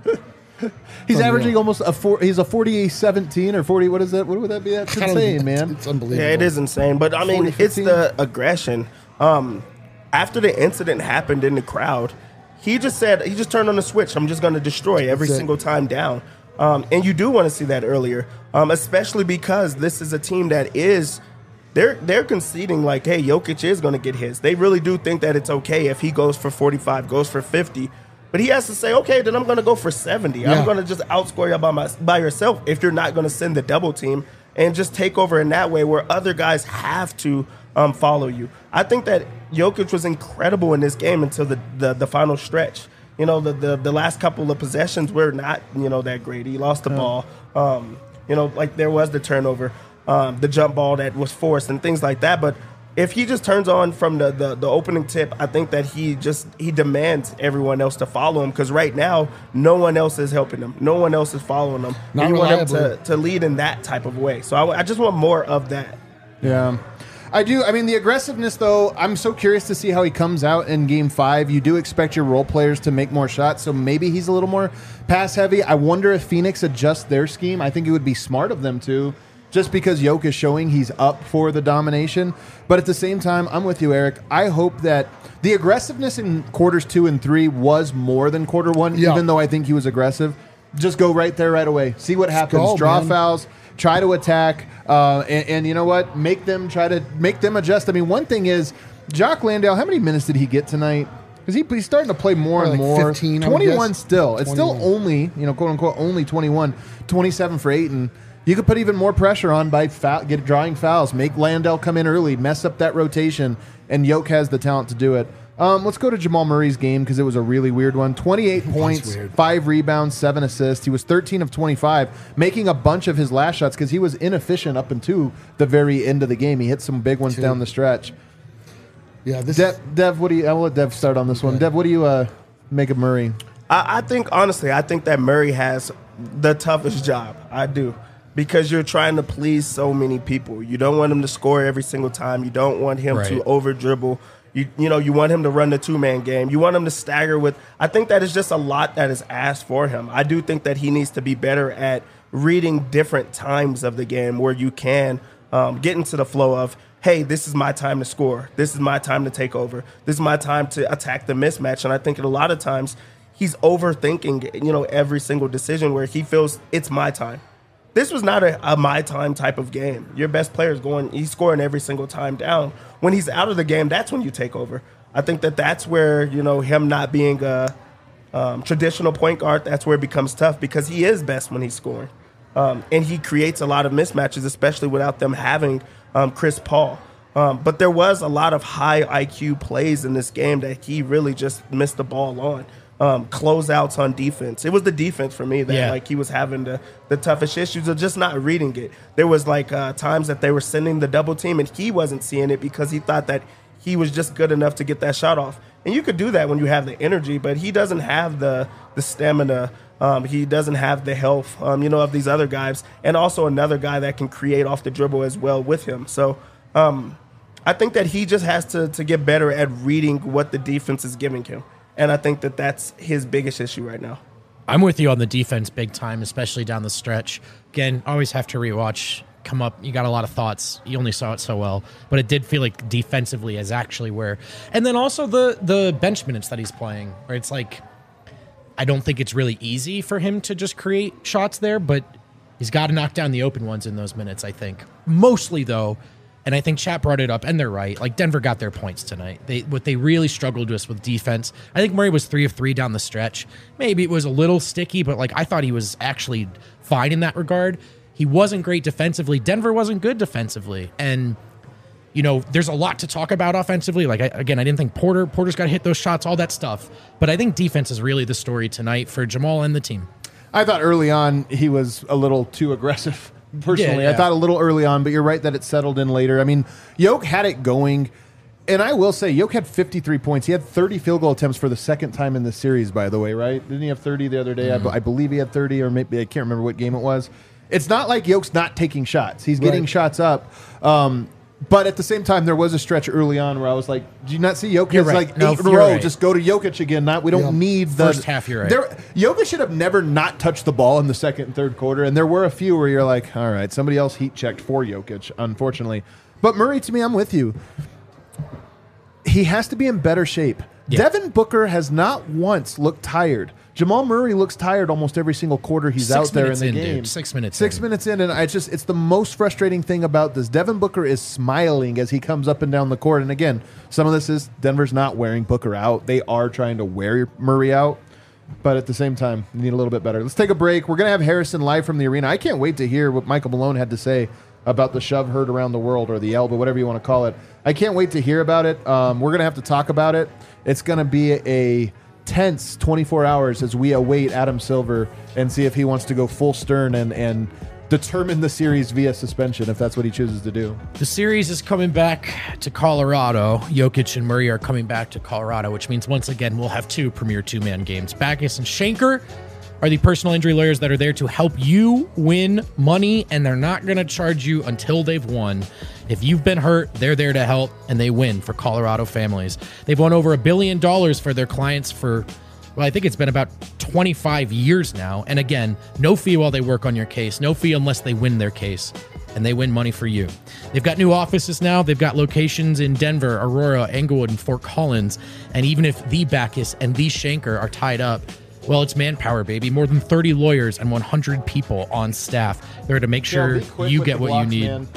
He's Unreal. averaging almost a four. He's a forty seventeen or forty. What is that? What would that be? That's insane, man. It's unbelievable. Yeah, it is insane. But I mean, it's the aggression. Um, after the incident happened in the crowd, he just said he just turned on the switch. I'm just going to destroy every That's it. single time down. Um, and you do want to see that earlier, um, especially because this is a team that is they're they're conceding like, hey, Jokic is going to get his. They really do think that it's okay if he goes for forty-five, goes for fifty. But he has to say, okay, then I'm going to go for seventy. Yeah. I'm going to just outscore you by, my, by yourself if you're not going to send the double team and just take over in that way where other guys have to um, follow you. I think that Jokic was incredible in this game until the, the, the final stretch. You know, the, the the last couple of possessions were not, you know, that great. He lost the Yeah. ball. Um, you know, like there was the turnover, um, the jump ball that was forced and things like that. But if he just turns on from the, the, the opening tip, I think that he just he demands everyone else to follow him because right now no one else is helping him. No one else is following him. Not and you want him reliably. to, to lead in that type of way. So I, I just want more of that. Yeah. I do. I mean, the aggressiveness, though, I'm so curious to see how he comes out in game five. You do expect your role players to make more shots, so maybe he's a little more pass heavy. I wonder if Phoenix adjusts their scheme. I think it would be smart of them to, just because Jokic is showing he's up for the domination. But at the same time, I'm with you, Eric. I hope that the aggressiveness in quarters two and three was more than quarter one, Yeah. even though I think he was aggressive. Just go right there right away. See what happens. go, Draw man. fouls. Try to attack, uh, and, and you know what? Make them try to make them adjust. I mean, one thing is, Jock Landale. How many minutes did he get tonight? Because he, he's starting to play more Probably and like more. fifteen, I would twenty-one guess. still. It's still twenty-one. only, you know, quote unquote, only twenty-one. twenty-seven for Ayton. You could put even more pressure on by foul, get drawing fouls. Make Landale come in early, mess up that rotation, and Yoke has the talent to do it. Um, let's go to Jamal Murray's game because it was a really weird one. twenty-eight points, weird. five rebounds, seven assists. He was thirteen of twenty-five, making a bunch of his last shots because he was inefficient up until the very end of the game. He hit some big ones Two. down the stretch. Yeah, this Dev, is, Dev, what do you? I'll let Dev start on this one. Okay. Dev, what do you uh, make of Murray? I, I think, honestly, I think that Murray has the toughest job. I do. Because you're trying to please so many people. You don't want him to score every single time. You don't want him Right. to over dribble. You you know, you want him to run the two-man game. You want him to stagger with – I think that is just a lot that is asked for him. I do think that he needs to be better at reading different times of the game where you can um, get into the flow of, hey, this is my time to score. This is my time to take over. This is my time to attack the mismatch. And I think a lot of times he's overthinking, you know, every single decision where he feels it's my time. This was not a, a my time type of game. Your best player is going, he's scoring every single time down. When he's out of the game, that's when you take over. I think that that's where, you know, him not being a um, traditional point guard, that's where it becomes tough because he is best when he's scoring. Um, and he creates a lot of mismatches, especially without them having um, Chris Paul. Um, but there was a lot of high I Q plays in this game that he really just missed the ball on. Um, closeouts on defense. It was the defense for me that Yeah. like he was having the, the toughest issues of just not reading it. There was like uh, times that they were sending the double team and he wasn't seeing it because he thought that he was just good enough to get that shot off. And you could do that when you have the energy, but he doesn't have the the stamina. Um, he doesn't have the health, um, you know, of these other guys, and also another guy that can create off the dribble as well with him. So um, I think that he just has to to get better at reading what the defense is giving him. And I think that that's his biggest issue right now. I'm with you on the defense big time, especially down the stretch. Again, always have to rewatch. Come up, you got a lot of thoughts. You only saw it so well, but it did feel like defensively is actually where. And then also the the bench minutes that he's playing, where it's like, I don't think it's really easy for him to just create shots there, but he's got to knock down the open ones in those minutes, I think. Mostly, though, and I think Chat brought it up, and they're right, like Denver got their points tonight. They What they really struggled with with defense, I think Murray was three of three down the stretch. Maybe it was a little sticky, but like I thought he was actually fine in that regard. He wasn't great defensively. Denver wasn't good defensively. And, you know, there's a lot to talk about offensively. Like, I, again, I didn't think Porter, Porter's got to hit those shots, all that stuff. But I think defense is really the story tonight for Jamal and the team. I thought early on he was a little too aggressive. Personally, Yeah, yeah. I thought a little early on, but you're right that it settled in later. I mean, Yoke had it going, and I will say, Yoke had fifty-three points. He had thirty field goal attempts for the second time in the series, by the way, right? Didn't he have thirty the other day? Mm-hmm. I, I believe he had thirty, or maybe I can't remember what game it was. It's not like Yoke's not taking shots. He's getting Right. shots up. Um, but at the same time, there was a stretch early on where I was like, "Do you not see Jokic? You're right. Like No, eight in a you're row. right. Just go to Jokic again. Not we don't Yeah. need the First half, you're right. There, Jokic should have never not touched the ball in the second and third quarter, and there were a few where you're like, all right, somebody else heat checked for Jokic, unfortunately. But Murray, to me, I'm with you. He has to be in better shape. Yeah. Devin Booker has not once looked tired. Jamal Murray looks tired almost every single quarter he's Six out there in minutes the in, game. dude. Six minutes Six in. minutes in, and I just it's the most frustrating thing about this. Devin Booker is smiling as he comes up and down the court. And again, some of this is Denver's not wearing Booker out. They are trying to wear Murray out. But at the same time, you need a little bit better. Let's take a break. We're going to have Harrison live from the arena. I can't wait to hear what Michael Malone had to say about the shove heard around the world, or the elbow, whatever you want to call it. I can't wait to hear about it. Um, we're going to have to talk about it. It's going to be a tense twenty-four hours as we await Adam Silver and see if he wants to go full Stern and, and determine the series via suspension, if that's what he chooses to do. The series is coming back to Colorado. Jokic and Murray are coming back to Colorado, which means once again we'll have two premier two-man games. Backus and Schenker are the personal injury lawyers that are there to help you win money, and they're not going to charge you until they've won. If you've been hurt, they're there to help, and they win for Colorado families. They've won over a billion dollars for their clients for, well, I think it's been about twenty-five years now. And again, no fee while they work on your case, no fee unless they win their case, and they win money for you. They've got new offices now. They've got locations in Denver, Aurora, Englewood, and Fort Collins. And even if the Backus and the Schenker are tied up, well, it's manpower, baby. More than thirty lawyers and one hundred people on staff. They're to make sure Yeah, be quick you with get the what blocks, you need. man.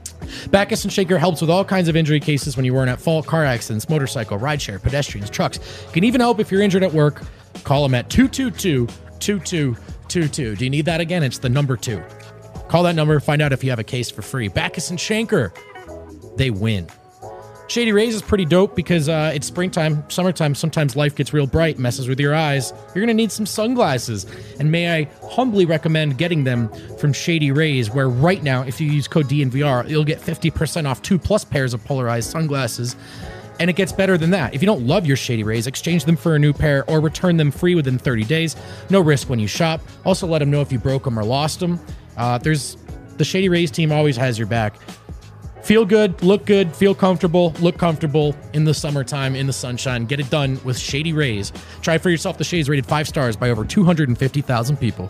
Backus and Schenker helps with all kinds of injury cases when you weren't at fault, car accidents, motorcycle, rideshare, pedestrians, trucks. Can even help if you're injured at work. Call them at two two two, two two two two. Do you need that again? It's the number two. Call that number, find out if you have a case for free. Backus and Schenker, they win. Shady Rays is pretty dope because uh, it's springtime, summertime. Sometimes life gets real bright, messes with your eyes. You're going to need some sunglasses. And may I humbly recommend getting them from Shady Rays, where right now, if you use code D N V R, you'll get fifty percent off two plus pairs of polarized sunglasses. And it gets better than that. If you don't love your Shady Rays, exchange them for a new pair or return them free within thirty days. No risk when you shop. Also, let them know if you broke them or lost them. Uh, there's the Shady Rays team always has your back. Feel good, look good, feel comfortable, look comfortable in the summertime, in the sunshine. Get it done with Shady Rays. Try for yourself the shades rated five stars by over two hundred fifty thousand people.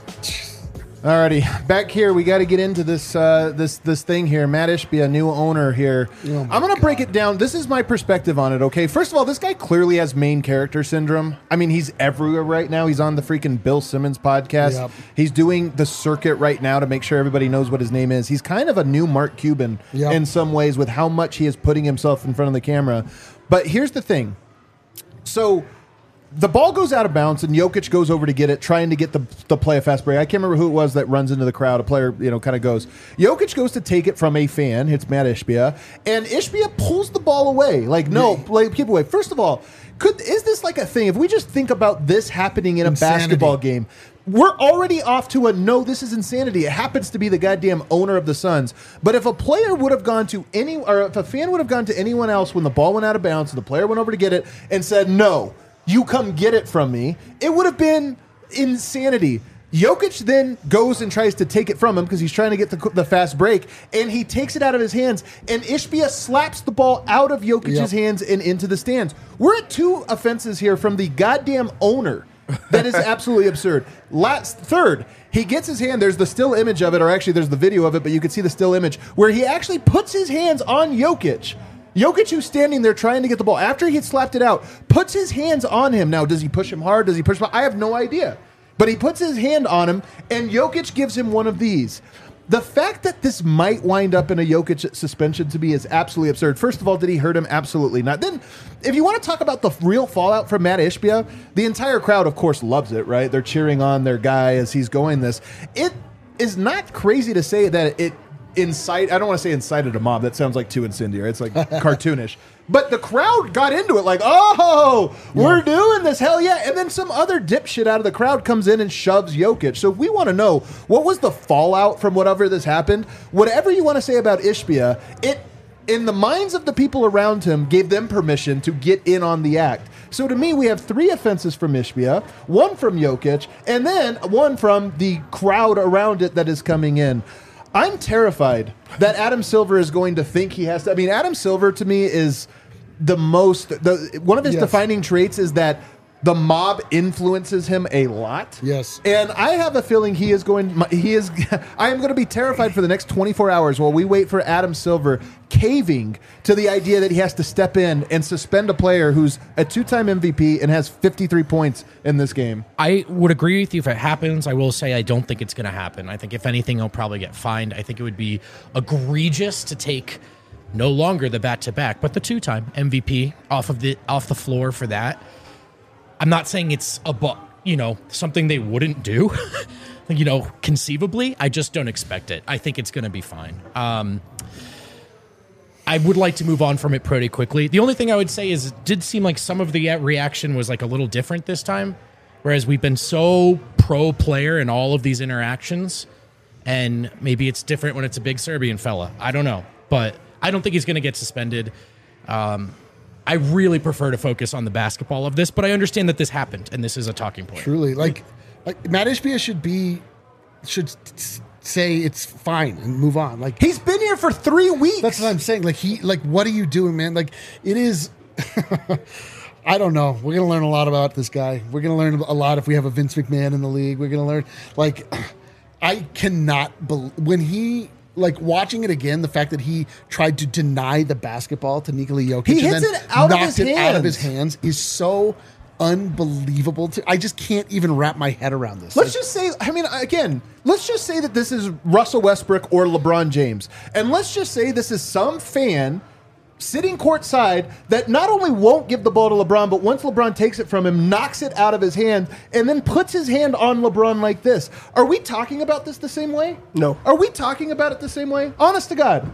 Alrighty, back here, we got to get into this uh, this this thing here. Matt Ishbia, a new owner here. Oh my I'm going to break it down. This is my perspective on it, okay? First of all, this guy clearly has main character syndrome. I mean, he's everywhere right now. He's on the freaking Bill Simmons podcast. Yep. He's doing the circuit right now to make sure everybody knows what his name is. He's kind of a new Mark Cuban Yep. in some ways with how much he is putting himself in front of the camera. But here's the thing. So the ball goes out of bounds, and Jokic goes over to get it, trying to get the, the play a fast break. I can't remember who it was that runs into the crowd. A player, you know, kind of goes. Jokic goes to take it from a fan, hits Matt Ishbia, and Ishbia pulls the ball away. Like, no, like, keep away. First of all, could is this like a thing? If we just think about this happening in a Insanity. basketball game, we're already off to a no, this is insanity. It happens to be the goddamn owner of the Suns. But if a player would have gone to any, or if a fan would have gone to anyone else when the ball went out of bounds and the player went over to get it and said, no, you come get it from me, it would have been insanity. Jokic then goes and tries to take it from him because he's trying to get the, the fast break, and he takes it out of his hands, and Ishbia slaps the ball out of Jokic's Yep. hands and into the stands. We're at two offenses here from the goddamn owner. That is absolutely absurd. Last third, he gets his hand. There's the still image of it, or actually there's the video of it, but you can see the still image where he actually puts his hands on Jokic. Jokic, who's standing there trying to get the ball after he had slapped it out, puts his hands on him. Now, does he push him hard? Does he push him? I have no idea. But he puts his hand on him, and Jokic gives him one of these. The fact that this might wind up in a Jokic suspension to me is absolutely absurd. First of all, did he hurt him? Absolutely not. Then, if you want to talk about the real fallout from Matt Ishbia, the entire crowd, of course, loves it, right? They're cheering on their guy as he's going this. It is not crazy to say that it incite. I don't want to say incited a mob. That sounds like too incendiary. It's like cartoonish. But the crowd got into it like, oh, we're yeah. doing this. Hell yeah. And then some other dipshit out of the crowd comes in and shoves Jokic. So we want to know, what was the fallout from whatever this happened? Whatever you want to say about Ishbia, it, in the minds of the people around him, gave them permission to get in on the act. So to me, we have three offenses from Ishbia, one from Jokic, and then one from the crowd around it that is coming in. I'm terrified that Adam Silver is going to think he has to. I mean, Adam Silver to me is the most. The one of his yes. defining traits is that the mob influences him a lot. Yes, and I have a feeling he is going. He is. I am going to be terrified for the next twenty-four hours while we wait for Adam Silver caving to the idea that he has to step in and suspend a player who's a two-time M V P and has fifty-three points in this game. I would agree with you if it happens. I will say I don't think it's going to happen. I think if anything, he'll probably get fined. I think it would be egregious to take no longer the back-to-back, but the two-time M V P off of the off the floor for that. I'm not saying it's a bu- you know something they wouldn't do, you know, conceivably. I just don't expect it. I think it's going to be fine. Um, I would like to move on from it pretty quickly. The only thing I would say is it did seem like some of the reaction was like a little different this time, whereas we've been so pro player in all of these interactions, and maybe it's different when it's a big Serbian fella. I don't know, but I don't think he's going to get suspended. Um, I really prefer to focus on the basketball of this, but I understand that this happened, and this is a talking point. Truly. Like, like Matt Ishbia should be, should say it's fine and move on. Like, he's been here for three weeks. That's what I'm saying. Like, he, like, what are you doing, man? Like, it is, I don't know. We're going to learn a lot about this guy. We're going to learn a lot if we have a Vince McMahon in the league. We're going to learn, like, I cannot believe, when he, like, watching it again, the fact that he tried to deny the basketball to Nikola Jokic he and hits then it out knocked of his it hands. out of his hands is so unbelievable. To, I just can't even wrap my head around this. Let's like, just say, I mean, again, let's just say that this is Russell Westbrook or LeBron James. And let's just say this is some fan sitting courtside that not only won't give the ball to LeBron, but once LeBron takes it from him, knocks it out of his hand, and then puts his hand on LeBron like this. Are we talking about this the same way? No. Are we talking about it the same way? Honest to God.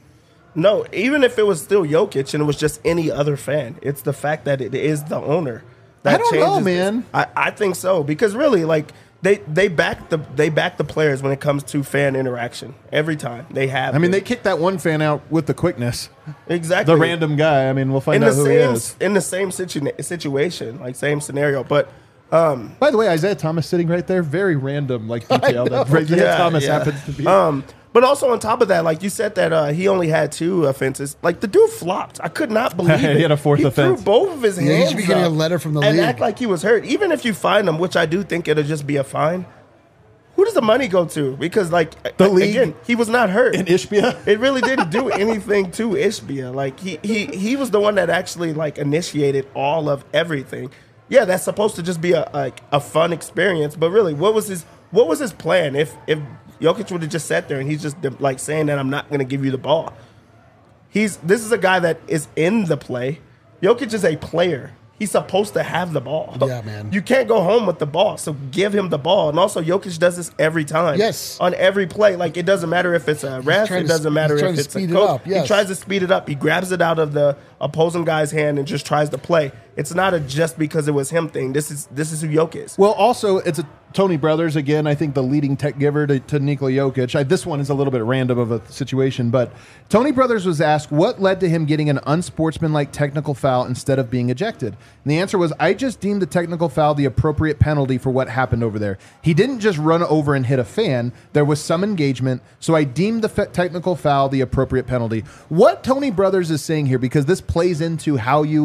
No, even if it was still Jokic and it was just any other fan, it's the fact that it is the owner. That I don't know, changes man. this. I, I think so, because really, like, They they back the they back the players when it comes to fan interaction every time they have. I mean, been. they kicked that one fan out with the quickness. Exactly, the random guy. I mean, we'll find in out the who same he is. in the same situ- situation, like same scenario. But um, by the way, Isaiah Thomas sitting right there, very random, like detail that Isaiah yeah, Thomas yeah. happens to be. Um, but also on top of that, like you said that uh, he only had two offenses. Like the dude flopped. I could not believe He it. had a fourth he offense. Threw both of his Yeah, he hands should be getting up a letter from the and league. act like he was hurt. Even if you fine him, which I do think it'll just be a fine. Who does the money go to? Because, like, The league? again, he was not hurt. In Ishbia? It really didn't do anything to Ishbia. Like, he, he, he was the one that actually, like, initiated all of everything. Yeah, that's supposed to just be a like a fun experience. But really, what was his what was his plan? If if Jokic would have just sat there and he's just, like, saying that I'm not going to give you the ball. He's This is a guy that is in the play. Jokic is a player. He's supposed to have the ball. Yeah, man. You can't go home with the ball, so give him the ball. And also, Jokic does this every time. Yes. On every play. Like, it doesn't matter if it's a ref. trying It to doesn't sp- matter he's if trying to it's a speed it coach. up, yes. He tries to speed it up. He grabs it out of the opposing guy's hand and just tries to play. It's not a just because it was him thing. This is this is who Jokic is. Well, also, it's a Tony Brothers, again, I think the leading tech giver to, to Nikola Jokic. I, this one is a little bit random of a situation, but Tony Brothers was asked what led to him getting an unsportsmanlike technical foul instead of being ejected. And the answer was, I just deemed the technical foul the appropriate penalty for what happened over there. He didn't just run over and hit a fan. There was some engagement, so I deemed the fe- technical foul the appropriate penalty. What Tony Brothers is saying here, because this plays into how you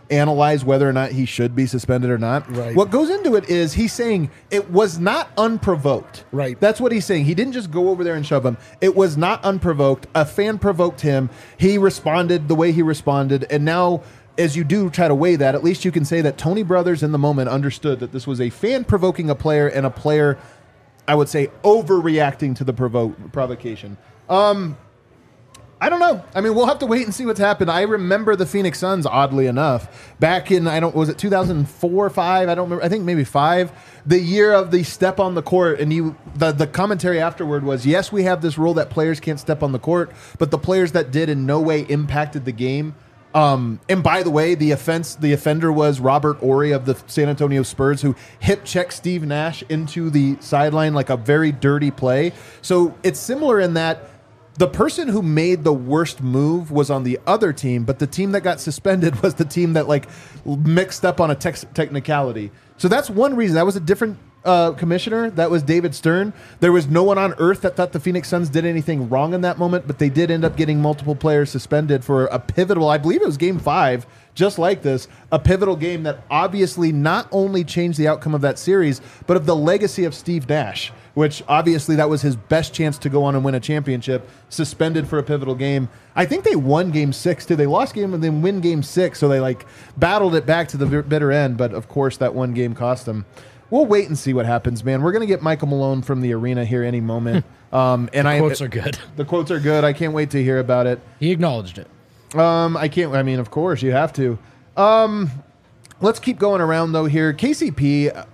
analyze whether or not he should be suspended or not. Right. What goes into it is he's saying it was not unprovoked. Right. That's what he's saying. He didn't just go over there and shove him. It was not unprovoked. A fan provoked him. He responded the way he responded. And now, as you do try to weigh that, at least you can say that Tony Brothers in the moment understood that this was a fan provoking a player and a player, I would say, overreacting to the provo- provocation. Um, I don't know. I mean, we'll have to wait and see what's happened. I remember the Phoenix Suns, oddly enough, back in, I don't, was it two thousand four or five? I don't remember. I think maybe five. The year of the step on the court, and you, the, the commentary afterward was, yes, we have this rule that players can't step on the court, but the players that did in no way impacted the game. Um, and by the way, the offense, the offender was Robert Horry of the San Antonio Spurs, who hip checked Steve Nash into the sideline like a very dirty play. So it's similar in that the person who made the worst move was on the other team, but the team that got suspended was the team that like mixed up on a tex- technicality. So that's one reason. That was a different uh, commissioner. That was David Stern. There was no one on earth that thought the Phoenix Suns did anything wrong in that moment, but they did end up getting multiple players suspended for a pivotal, I believe it was game five, just like this, a pivotal game that obviously not only changed the outcome of that series, but of the legacy of Steve Nash, which obviously that was his best chance to go on and win a championship, suspended for a pivotal game. I think they won game six too. They lost game and then win game six, so they like battled it back to the bitter end, but of course that one game cost them. We'll wait and see what happens, man. We're going to get Michael Malone from the arena here any moment. Um, and the I, quotes are good. The quotes are good. I can't wait to hear about it. He acknowledged it. Um, I can't. I mean, of course, you have to. Um, let's keep going around though. Here, K C P. Uh,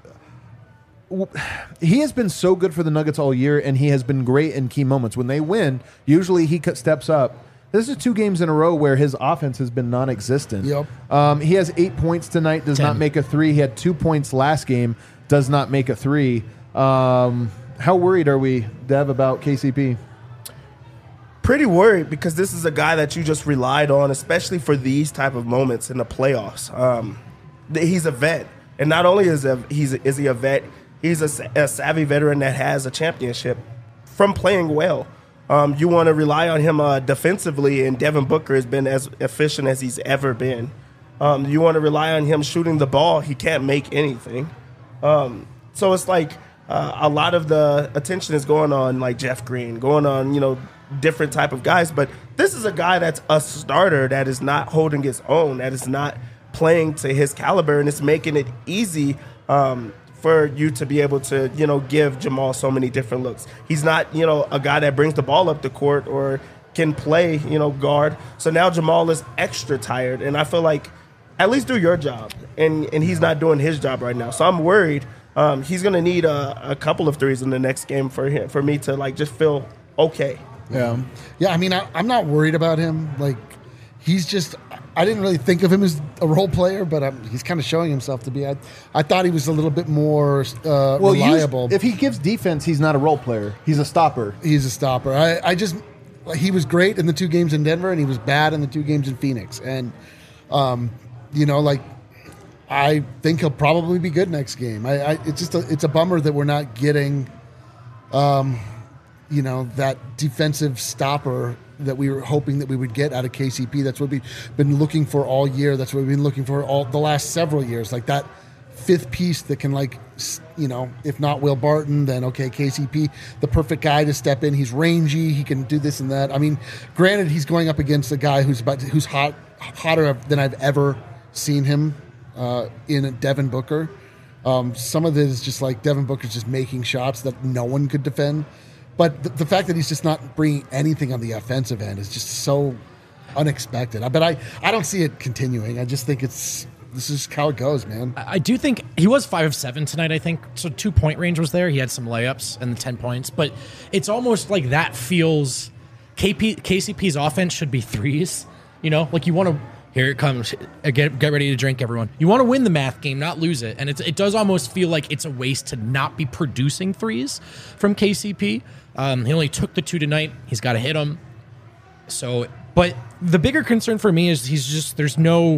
he has been so good for the Nuggets all year, and he has been great in key moments. When they win, usually he steps up. This is two games in a row where his offense has been non-existent. Yep. Um, he has eight points tonight. Does Ten. not make a three. He had two points last game. Does not make a three. Um, how worried are we, Dev, about K C P? Pretty worried because this is a guy that you just relied on, especially for these type of moments in the playoffs. Um, th- he's a vet, and not only is a, he's a, is he a vet, he's a, a savvy veteran that has a championship from playing well. Um, you want to rely on him uh, defensively, and Devin Booker has been as efficient as he's ever been. Um, you want to rely on him shooting the ball. He can't make anything. Um, so it's like uh, a lot of the attention is going on like Jeff Green, going on, you know, different type of guys. But this is a guy that's a starter that is not holding his own, that is not playing to his caliber, and it's making it easy um, for you to be able to, you know, give Jamal so many different looks. He's not, you know, a guy that brings the ball up the court or can play, you know, guard. So now Jamal is extra tired, and I feel like at least do your job, and and he's not doing his job right now. So I'm worried. Um, he's going to need a, a couple of threes in the next game for him, for me to like just feel okay. Yeah, yeah. I mean, I, I'm not worried about him. Like, he's just. I didn't really think of him as a role player, but um, he's kind of showing himself to be. I, I thought he was a little bit more uh, Well, reliable. us- if he gives defense, he's not a role player. He's a stopper. He's a stopper. I, I just. He was great in the two games in Denver, and he was bad in the two games in Phoenix. And, um, you know, like, I think he'll probably be good next game. I, I it's just a, it's a bummer that we're not getting, um, you know, that defensive stopper that we were hoping that we would get out of K C P. That's what we've been looking for all year. That's what we've been looking for all the last several years. Like that fifth piece that can, like, you know, if not Will Barton, then okay, K C P, the perfect guy to step in. He's rangy. He can do this and that. I mean, granted, he's going up against a guy who's about to, who's hot, hotter than I've ever seen him uh, in Devin Booker. Um, some of it is just like Devin Booker's just making shots that no one could defend. But the, the fact that he's just not bringing anything on the offensive end is just so unexpected. But I, I don't see it continuing. I just think it's this is how it goes, man. I do think he was five of seven tonight, I think. So two-point range was there. He had some layups and the ten points. But it's almost like that feels K P, K C P's offense should be threes. You know, like you want to, here it comes. Get, get ready to drink, everyone. You want to win the math game, not lose it. And it's, it does almost feel like it's a waste to not be producing threes from K C P. Um, he only took the two tonight. He's got to hit them. So, but the bigger concern for me is he's just, there's no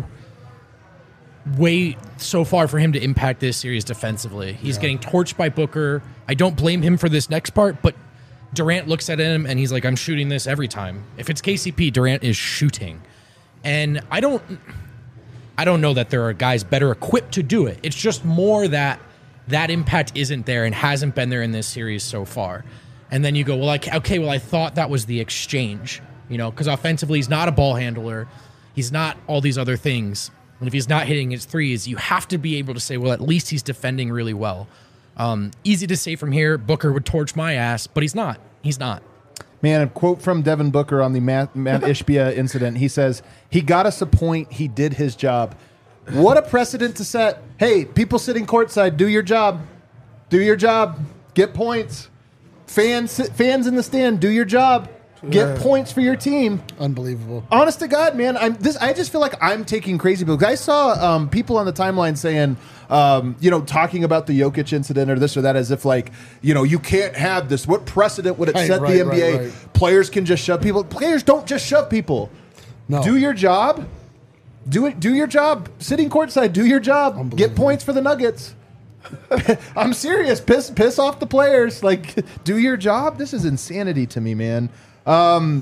way so far for him to impact this series defensively. He's yeah. getting torched by Booker. I don't blame him for this next part, but Durant looks at him and he's like, I'm shooting this every time. If it's K C P, Durant is shooting. And I don't, I don't know that there are guys better equipped to do it. It's just more that that impact isn't there and hasn't been there in this series so far. And then you go, well, like, okay, well, I thought that was the exchange, you know, because offensively he's not a ball handler. He's not all these other things. And if he's not hitting his threes, you have to be able to say, well, at least he's defending really well. Um, easy to say from here, Booker would torch my ass, but he's not. He's not. Man, a quote from Devin Booker on the Matt, Matt Ishbia incident. He says, he got us a point. He did his job. What a precedent to set. Hey, people sitting courtside, do your job. Do your job. Get points. Fans, fans in the stand, do your job. Get yeah. points for your team. Unbelievable. Honest to God, man, I'm this. I just feel like I'm taking crazy because I saw um, people on the timeline saying, um, you know, talking about the Jokic incident or this or that as if like, you know, you can't have this. What precedent would it right, set right, the N B A? Right, right. Players can just shove people. Players don't just shove people. No. Do your job. Do it. Do your job. Sitting courtside, do your job. Get points for the Nuggets. I'm serious. Piss, piss off the players. Like, do your job. This is insanity to me, man. Um,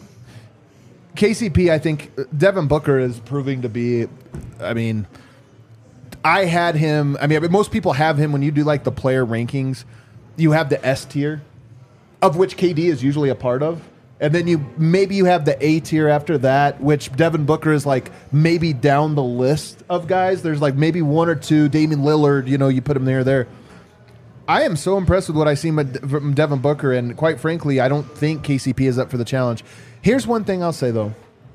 K C P, I think Devin Booker is proving to be. I mean, I had him. I mean, most people have him when you do like the player rankings. You have the S tier, of which K D is usually a part of. And then you maybe you have the A tier after that, which Devin Booker is like maybe down the list of guys. There's like maybe one or two. Damian Lillard, you know, you put him there. There, I am so impressed with what I see from Devin Booker, and quite frankly, I don't think K C P is up for the challenge. Here's one thing I'll say though: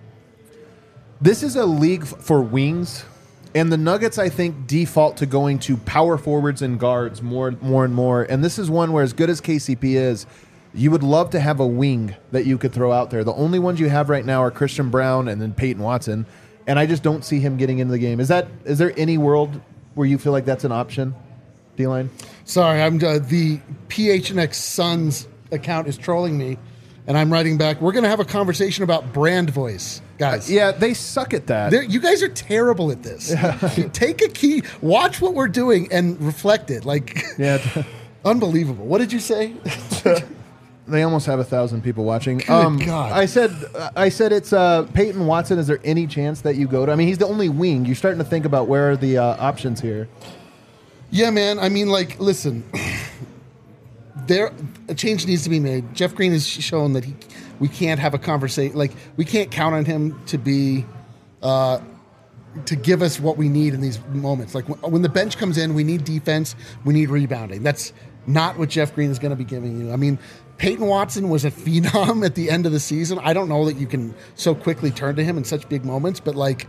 this is a league for wings, and the Nuggets, I think, default to going to power forwards and guards more, more and more. And this is one where, as good as K C P is, you would love to have a wing that you could throw out there. The only ones you have right now are Christian Brown and then Peyton Watson, and I just don't see him getting into the game. Is that is there any world where you feel like that's an option, D-Line? Sorry, I'm uh, the P H N X Suns account is trolling me, and I'm writing back. We're going to have a conversation about brand voice, guys. Uh, yeah, they suck at that. They're, you guys are terrible at this. Yeah. Take a key, watch what we're doing, and reflect it. Like, yeah, unbelievable. What did you say? They almost have a thousand people watching. Good um, God. I said, I said it's uh, Peyton Watson. Is there any chance that you go to? I mean, he's the only wing. You're starting to think about where are the uh, options here. Yeah, man. I mean, like, listen, there a change needs to be made. Jeff Green has shown that he we can't have a conversation. Like, we can't count on him to be uh, to give us what we need in these moments. Like when the bench comes in, we need defense, we need rebounding. That's not what Jeff Green is going to be giving you. I mean, Peyton Watson was a phenom at the end of the season. I don't know that you can so quickly turn to him in such big moments, but like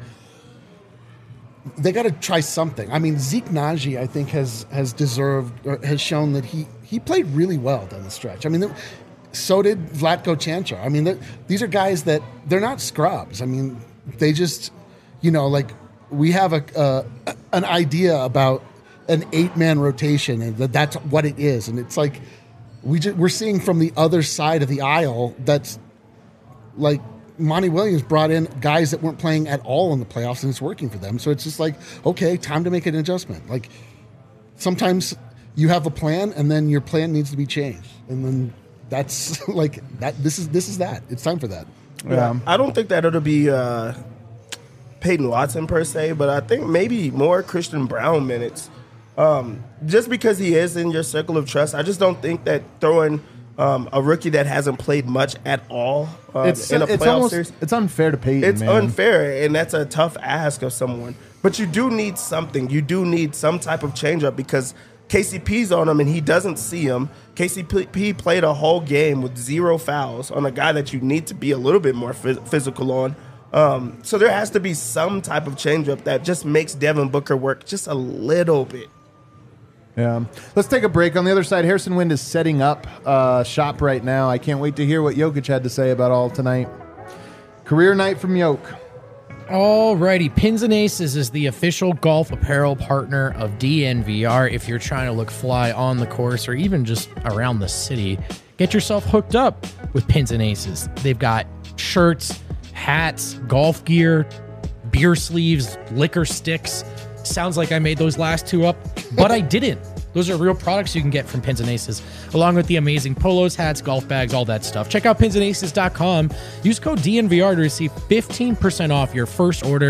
they got to try something. I mean, Zeke Naji, I think, has has deserved or has shown that he he played really well down the stretch. I mean, so did Vlatko Čančar. I mean, these are guys that they're not scrubs. I mean, they just, you know, like we have a uh, an idea about an eight man rotation and that that's what it is, and it's like. We just, we're seeing from the other side of the aisle that's like Monty Williams brought in guys that weren't playing at all in the playoffs, and it's working for them. So it's just like, okay, time to make an adjustment. Like sometimes you have a plan, and then your plan needs to be changed, and then that's like that. This is this is that. It's time for that. Yeah, I don't think that it'll be uh, Peyton Watson per se, but I think maybe more Christian Brown minutes. Um, just because he is in your circle of trust, I just don't think that throwing um, a rookie that hasn't played much at all um, it's, in a it's playoff almost, series, it's unfair to Peyton. It's man. unfair, and that's a tough ask of someone. But you do need something. You do need some type of changeup because K C P's on him and he doesn't see him. K C P played a whole game with zero fouls on a guy that you need to be a little bit more phys- physical on. Um, so there has to be some type of changeup that just makes Devin Booker work just a little bit. Yeah. Let's take a break. On the other side, Harrison Wind is setting up uh, shop right now. I can't wait to hear what Jokic had to say about all tonight. Career night from Yoke. Alrighty, Pins and Aces is the official golf apparel partner of D N V R. If you're trying to look fly on the course or even just around the city, get yourself hooked up with Pins and Aces. They've got shirts, hats, golf gear, beer sleeves, liquor sticks. Sounds like I made those last two up, but I didn't. Those are real products you can get from Pins and Aces, along with the amazing polos, hats, golf bags, all that stuff. Check out pins and aces dot com. Use code D N V R to receive fifteen percent off your first order.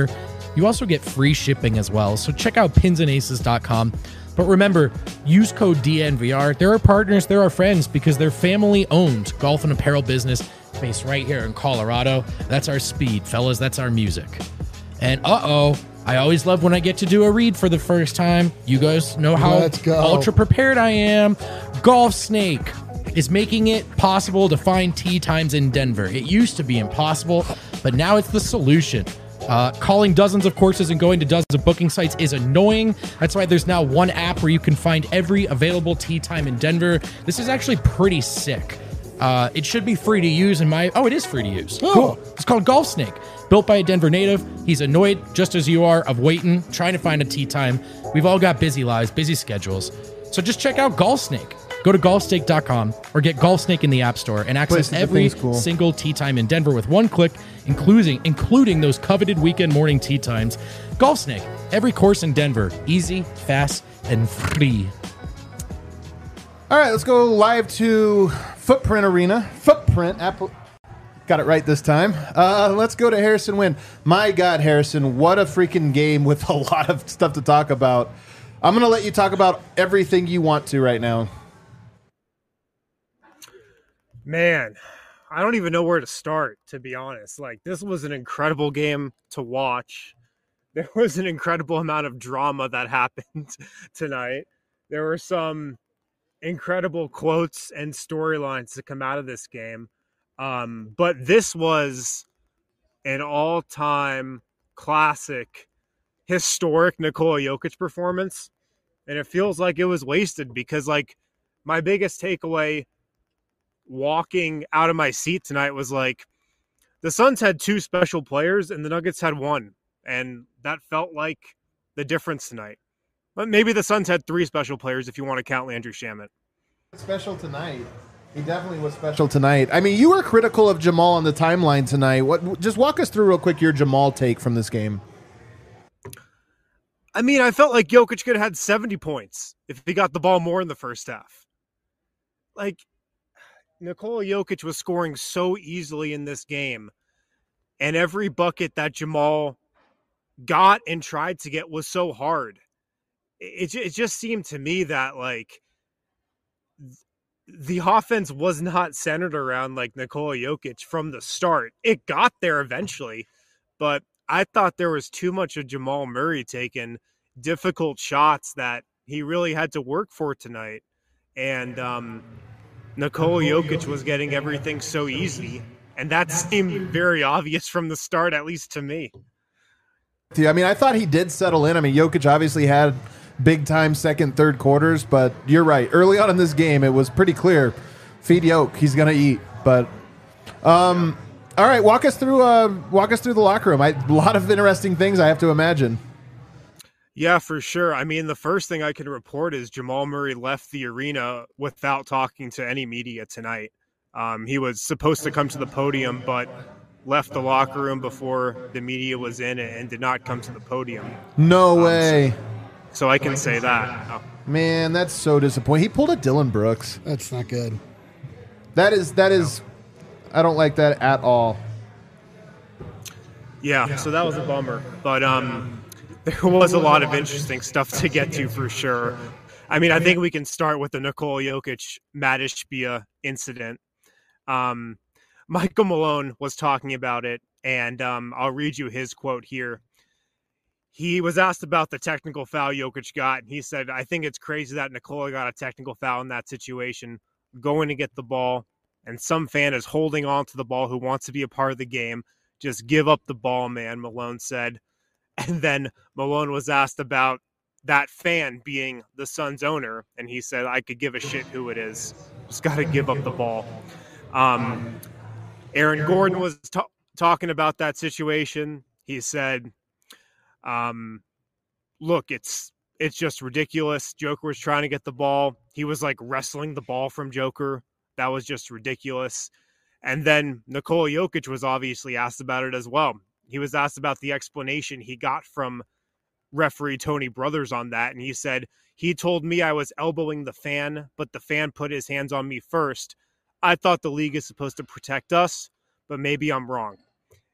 You also get free shipping as well. So check out pins and aces dot com. But remember, use code D N V R. They're our partners, they're our friends, because they're family-owned golf and apparel business based right here in Colorado. That's our speed, fellas. That's our music. And uh-oh, I always love when I get to do a read for the first time. You guys know how Let's go. ultra prepared I am. Golf Snake is making it possible to find tee times in Denver. It used to be impossible, but now it's the solution. Uh, calling dozens of courses and going to dozens of booking sites is annoying. That's why there's now one app where you can find every available tee time in Denver. This is actually pretty sick. Uh, it should be free to use in my... Oh, it is free to use. Oh. Cool. It's called Golf Snake. Built by a Denver native. He's annoyed, just as you are, of waiting, trying to find a tee time. We've all got busy lives, busy schedules. So just check out Golf Snake. Go to golf snake dot com or get Golf Snake in the App Store and access Places, every things cool. single tee time in Denver with one click, including including those coveted weekend morning tee times. Golf Snake, every course in Denver, easy, fast, and free. All right, let's go live to Footprint Arena. Footprint, Apple. Got it right this time. Uh, let's go to Harrison Wind. My God, Harrison, what a freaking game with a lot of stuff to talk about. I'm going to let you talk about everything you want to right now. Man, I don't even know where to start, to be honest. Like, this was an incredible game to watch. There was an incredible amount of drama that happened tonight. There were some incredible quotes and storylines to come out of this game. Um, but this was an all-time classic, historic Nikola Jokic performance. And it feels like it was wasted because, like, my biggest takeaway walking out of my seat tonight was like, the Suns had two special players and the Nuggets had one. And that felt like the difference tonight. But maybe the Suns had three special players if you want to count Landry Shamet. Special tonight. He definitely was special tonight. I mean, you were critical of Jamal on the timeline tonight. What? Just walk us through real quick your Jamal take from this game. I mean, I felt like Jokic could have had seventy points if he got the ball more in the first half. Like, Nikola Jokic was scoring so easily in this game, and every bucket that Jamal got and tried to get was so hard. It, it just seemed to me that, like, the offense was not centered around, like, Nikola Jokic from the start. It got there eventually, but I thought there was too much of Jamal Murray taking difficult shots that he really had to work for tonight. And um, Nikola Jokic was getting everything so easy, and that seemed very obvious from the start, at least to me. I mean, I thought he did settle in. I mean, Jokic obviously had big-time second, third quarters, but you're right. Early on in this game, it was pretty clear. Feed Yoke, he's going to eat. But, um, all right, walk us through. Uh, walk us through the locker room. I, a lot of interesting things, I have to imagine. Yeah, for sure. I mean, the first thing I can report is Jamal Murray left the arena without talking to any media tonight. Um, he was supposed to come to the podium, but left the locker room before the media was in and did not come to the podium. No um, way. So, so I can say that. Oh. Man, that's so disappointing. He pulled a Dylan Brooks. That's not good. That is, that is, I don't like that at all. Yeah, so that was a bummer. But um, there was a lot of interesting stuff to get to for sure. I mean, I think we can start with the Nikola Jokic Matt Ishbia incident. Um, Michael Malone was talking about it, and um, I'll read you his quote here. He was asked about the technical foul Jokic got, and he said, I think it's crazy that Nikola got a technical foul in that situation, going to get the ball, and some fan is holding on to the ball who wants to be a part of the game. Just give up the ball, man, Malone said. And then Malone was asked about that fan being the Suns owner, and he said, I could give a shit who it is. Just got to give up the ball. Um, Aaron Gordon was t- talking about that situation. He said, um, look, it's it's just ridiculous. Joker was trying to get the ball. He was like wrestling the ball from Joker. That was just ridiculous. And then Nikola Jokic was obviously asked about it as well. He was asked about the explanation he got from referee Tony Brothers on that. And he said, he told me I was elbowing the fan, but the fan put his hands on me first. I thought the league is supposed to protect us, but maybe I'm wrong.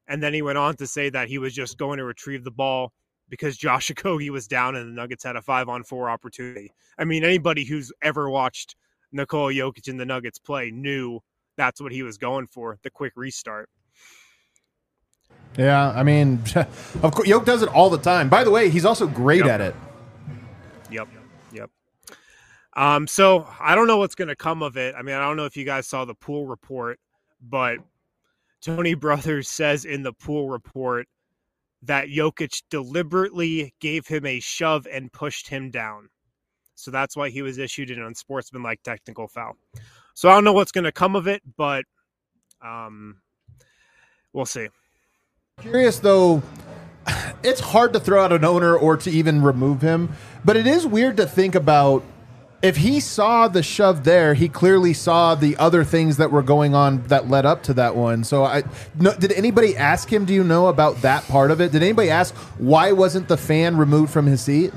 And then he went on to say that he was just going to retrieve the ball because Josh Okogie was down and the Nuggets had a five-on-four opportunity. I mean, anybody who's ever watched Nikola Jokic and the Nuggets play knew that's what he was going for, the quick restart. Yeah, I mean, of course, Jokic does it all the time. By the way, he's also great Yep. at it. Yep, yep. Um, so I don't know what's going to come of it. I mean, I don't know if you guys saw the Poole report, but Tony Brothers says in the Poole report that Jokic deliberately gave him a shove and pushed him down. So that's why he was issued an unsportsmanlike technical foul. So I don't know what's going to come of it, but um, we'll see. Curious, though, it's hard to throw out an owner or to even remove him, but it is weird to think about. If he saw the shove there, he clearly saw the other things that were going on that led up to that one. So, I no, did anybody ask him, do you know about that part of it? Did anybody ask why wasn't the fan removed from his seat?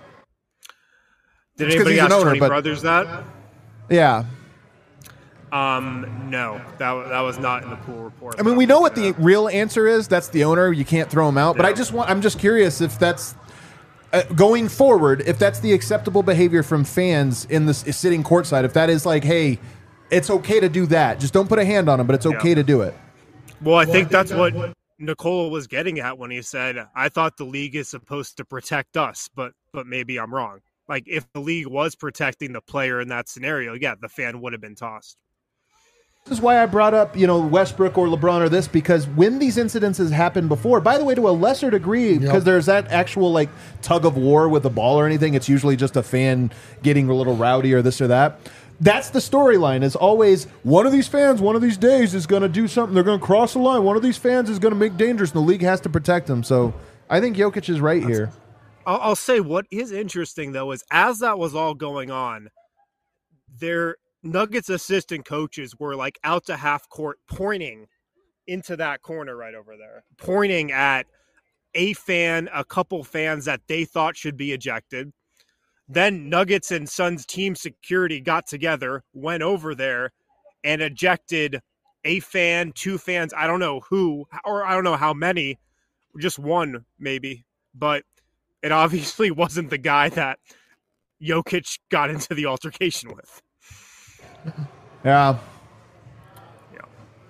Did It's 'cause anybody he's an ask owner, Tony but- Brothers that? Yeah. Um, no, that, that was not in the Poole report. I mean, we know what the real answer is. That's the owner. You can't throw him out. But I Yeah. just want, I'm just curious if that's uh, going forward, if that's the acceptable behavior from fans in the s- sitting courtside, if that is like, hey, it's okay to do that. Just don't put a hand on him, but it's okay Yeah. to do it. Well, I think that's what Nikola was getting at when he said, I thought the league is supposed to protect us, but but maybe I'm wrong. Like, if the league was protecting the player in that scenario, yeah, the fan would have been tossed. This is why I brought up, you know, Westbrook or LeBron or this, because when these incidences happened before, by the way, to a lesser degree, because there's that actual like tug of war with the ball or anything, it's usually just a fan getting a little rowdy or this or that. That's the storyline, is always one of these fans one of these days is going to do something. They're going to cross the line. One of these fans is going to make dangerous, and the league has to protect them. So I think Jokic is right here. I'll, I'll say what is interesting, though, is as that was all going on, their Nuggets assistant coaches were like out to half court pointing into that corner right over there, pointing at a fan, a couple fans that they thought should be ejected. Then Nuggets and Suns team security got together, went over there, and ejected a fan, two fans, I don't know who, or I don't know how many, just one maybe, but it obviously wasn't the guy that Jokic got into the altercation with. Yeah. Yeah.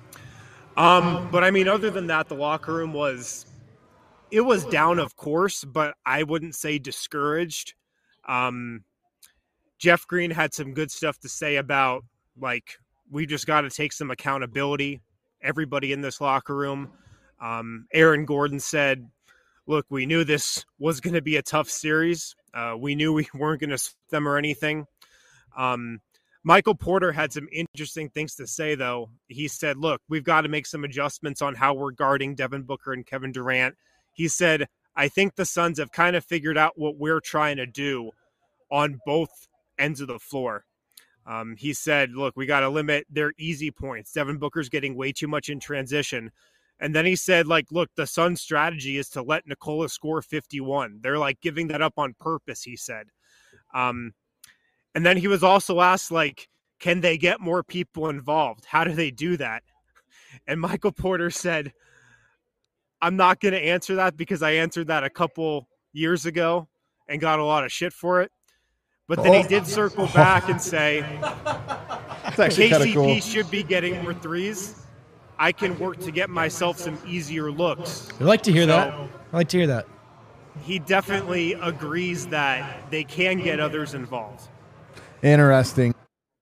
Um, but I mean, other than that, the locker room was, it was down, of course, but I wouldn't say discouraged. Um, Jeff Green had some good stuff to say about, like, we just got to take some accountability, everybody in this locker room. Um, Aaron Gordon said, look, we knew this was going to be a tough series. Uh, we knew we weren't going to sweep them or anything. Um, Michael Porter had some interesting things to say, though. He said, look, we've got to make some adjustments on how we're guarding Devin Booker and Kevin Durant. He said, I think the Suns have kind of figured out what we're trying to do on both ends of the floor. Um, he said, look, we got to limit their easy points. Devin Booker's getting way too much in transition. And then he said, like, look, the Suns' strategy is to let Nikola score fifty-one. They're, like, giving that up on purpose, he said. Um, and then he was also asked, like, can they get more people involved? How do they do that? And Michael Porter said, I'm not going to answer that because I answered that a couple years ago and got a lot of shit for it. But then he did circle back and say, It's actually kind of K C P cool. should be getting more threes. I can work to get myself some easier looks. I like to hear So- that. I like to hear that. He definitely agrees that they can get others involved. Interesting.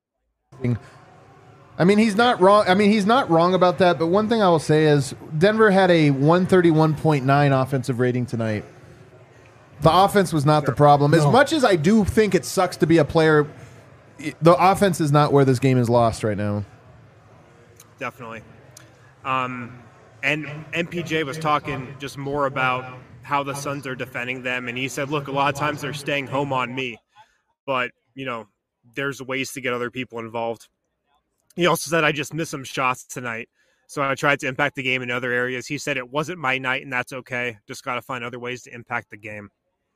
I mean, he's not wrong. I mean, he's not wrong about that. But one thing I will say is Denver had a one thirty-one point nine offensive rating tonight. The offense was not the problem. As No. much as I do think it sucks to be a player, the offense is not where this game is lost right now. Definitely. Um, and M P J was talking just more about how the Suns are defending them. And he said, look, a lot of times they're staying home on me. But, you know, there's ways to get other people involved. He also said, I just missed some shots tonight. So I tried to impact the game in other areas. He said it wasn't my night, and that's okay. Just got to find other ways to impact the game.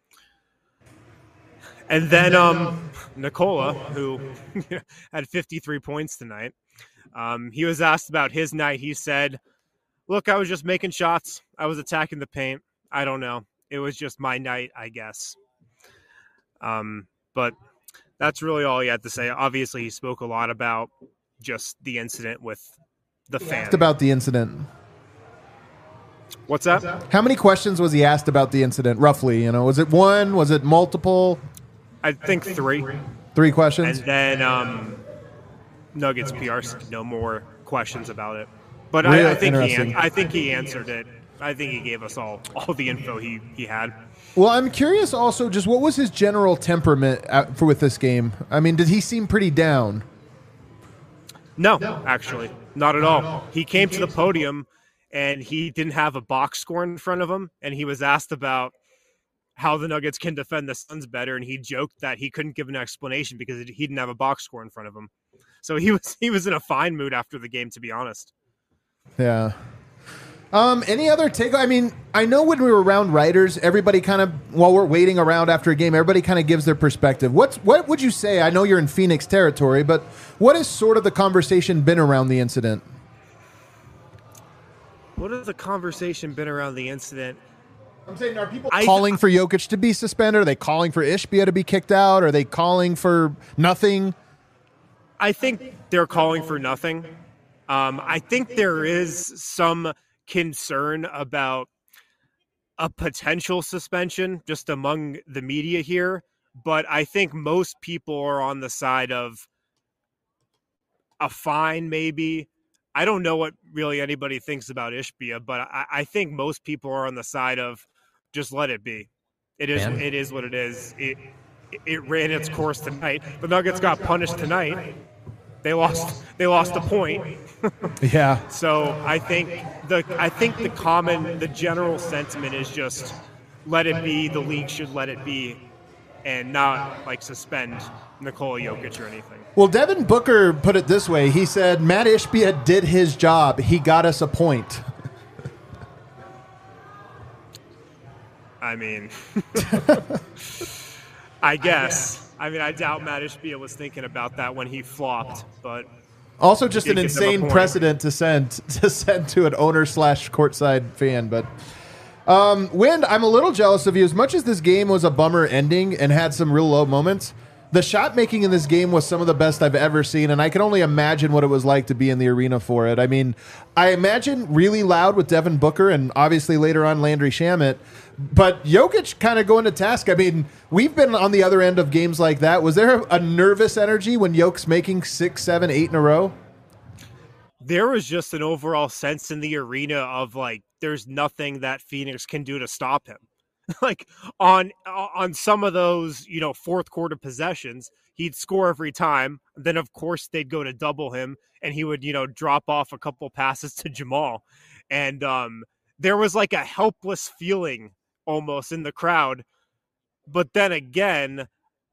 And then um, Nikola, who had fifty-three points tonight, um, he was asked about his night. He said, look, I was just making shots. I was attacking the paint. I don't know. It was just my night, I guess. Um, but that's really all he had to say. Obviously, he spoke a lot about just the incident with the fan. Asked about the incident. What's that? How many questions was he asked about the incident, roughly? You know, was it one? Was it multiple? I think three. Three questions? And then um, Nuggets P R said no more questions about it. But Really I, I think he interesting. an- I think he answered it. I think he gave us all, all the info he, he had. Well, I'm curious also, just what was his general temperament at, for with this game? I mean, did he seem pretty down? No, actually, not at all. He came to the podium and he didn't have a box score in front of him, and he was asked about how the Nuggets can defend the Suns better, and he joked that he couldn't give an explanation because he didn't have a box score in front of him. So he was he was in a fine mood after the game, to be honest. Yeah. Um, any other take? I mean, I know when we were around writers, everybody kind of, while we're waiting around after a game, everybody kind of gives their perspective. What's what would you say? I know you're in Phoenix territory, but what has sort of the conversation been around the incident? What has the conversation been around the incident? I'm saying, are people I- calling for Jokic to be suspended? Are they calling for Ishbia to be kicked out? Are they calling for nothing? I think they're calling for nothing. Um, I think there is some concern about a potential suspension just among the media here, but I think most people are on the side of a fine, maybe. I don't know what really anybody thinks about Ishbia, but I, I think most people are on the side of just let it be. It is Man. it is what it is. It it ran its course tonight. The Nuggets got punished tonight. They lost they lost a point. Yeah. So I think the I think the common the general sentiment is just let it be. The league should let it be, and not like suspend Nikola Jokic or anything. Well, Devin Booker put it this way. He said, Matt Ishbia did his job. He got us a point. I mean, I guess. I mean, I doubt Matt Ishbia was thinking about that when he flopped, but Also, just Did an give them a insane point. precedent to send to send to an owner slash courtside fan. But um, Wind, I'm a little jealous of you. As much as this game was a bummer ending and had some real low moments, the shot making in this game was some of the best I've ever seen, and I can only imagine what it was like to be in the arena for it. I mean, I imagine really loud with Devin Booker and obviously later on Landry Shamet, but Jokic kind of going to task. I mean, we've been on the other end of games like that. Was there a nervous energy when Jokic's making six, seven, eight in a row? there was just an overall sense in the arena of like, there's nothing that Phoenix can do to stop him. Like on on some of those, you know, fourth quarter possessions, he'd score every time. Then of course they'd go to double him, and he would, you know, drop off a couple passes to Jamal, and um, there was like a helpless feeling almost in the crowd. But then again,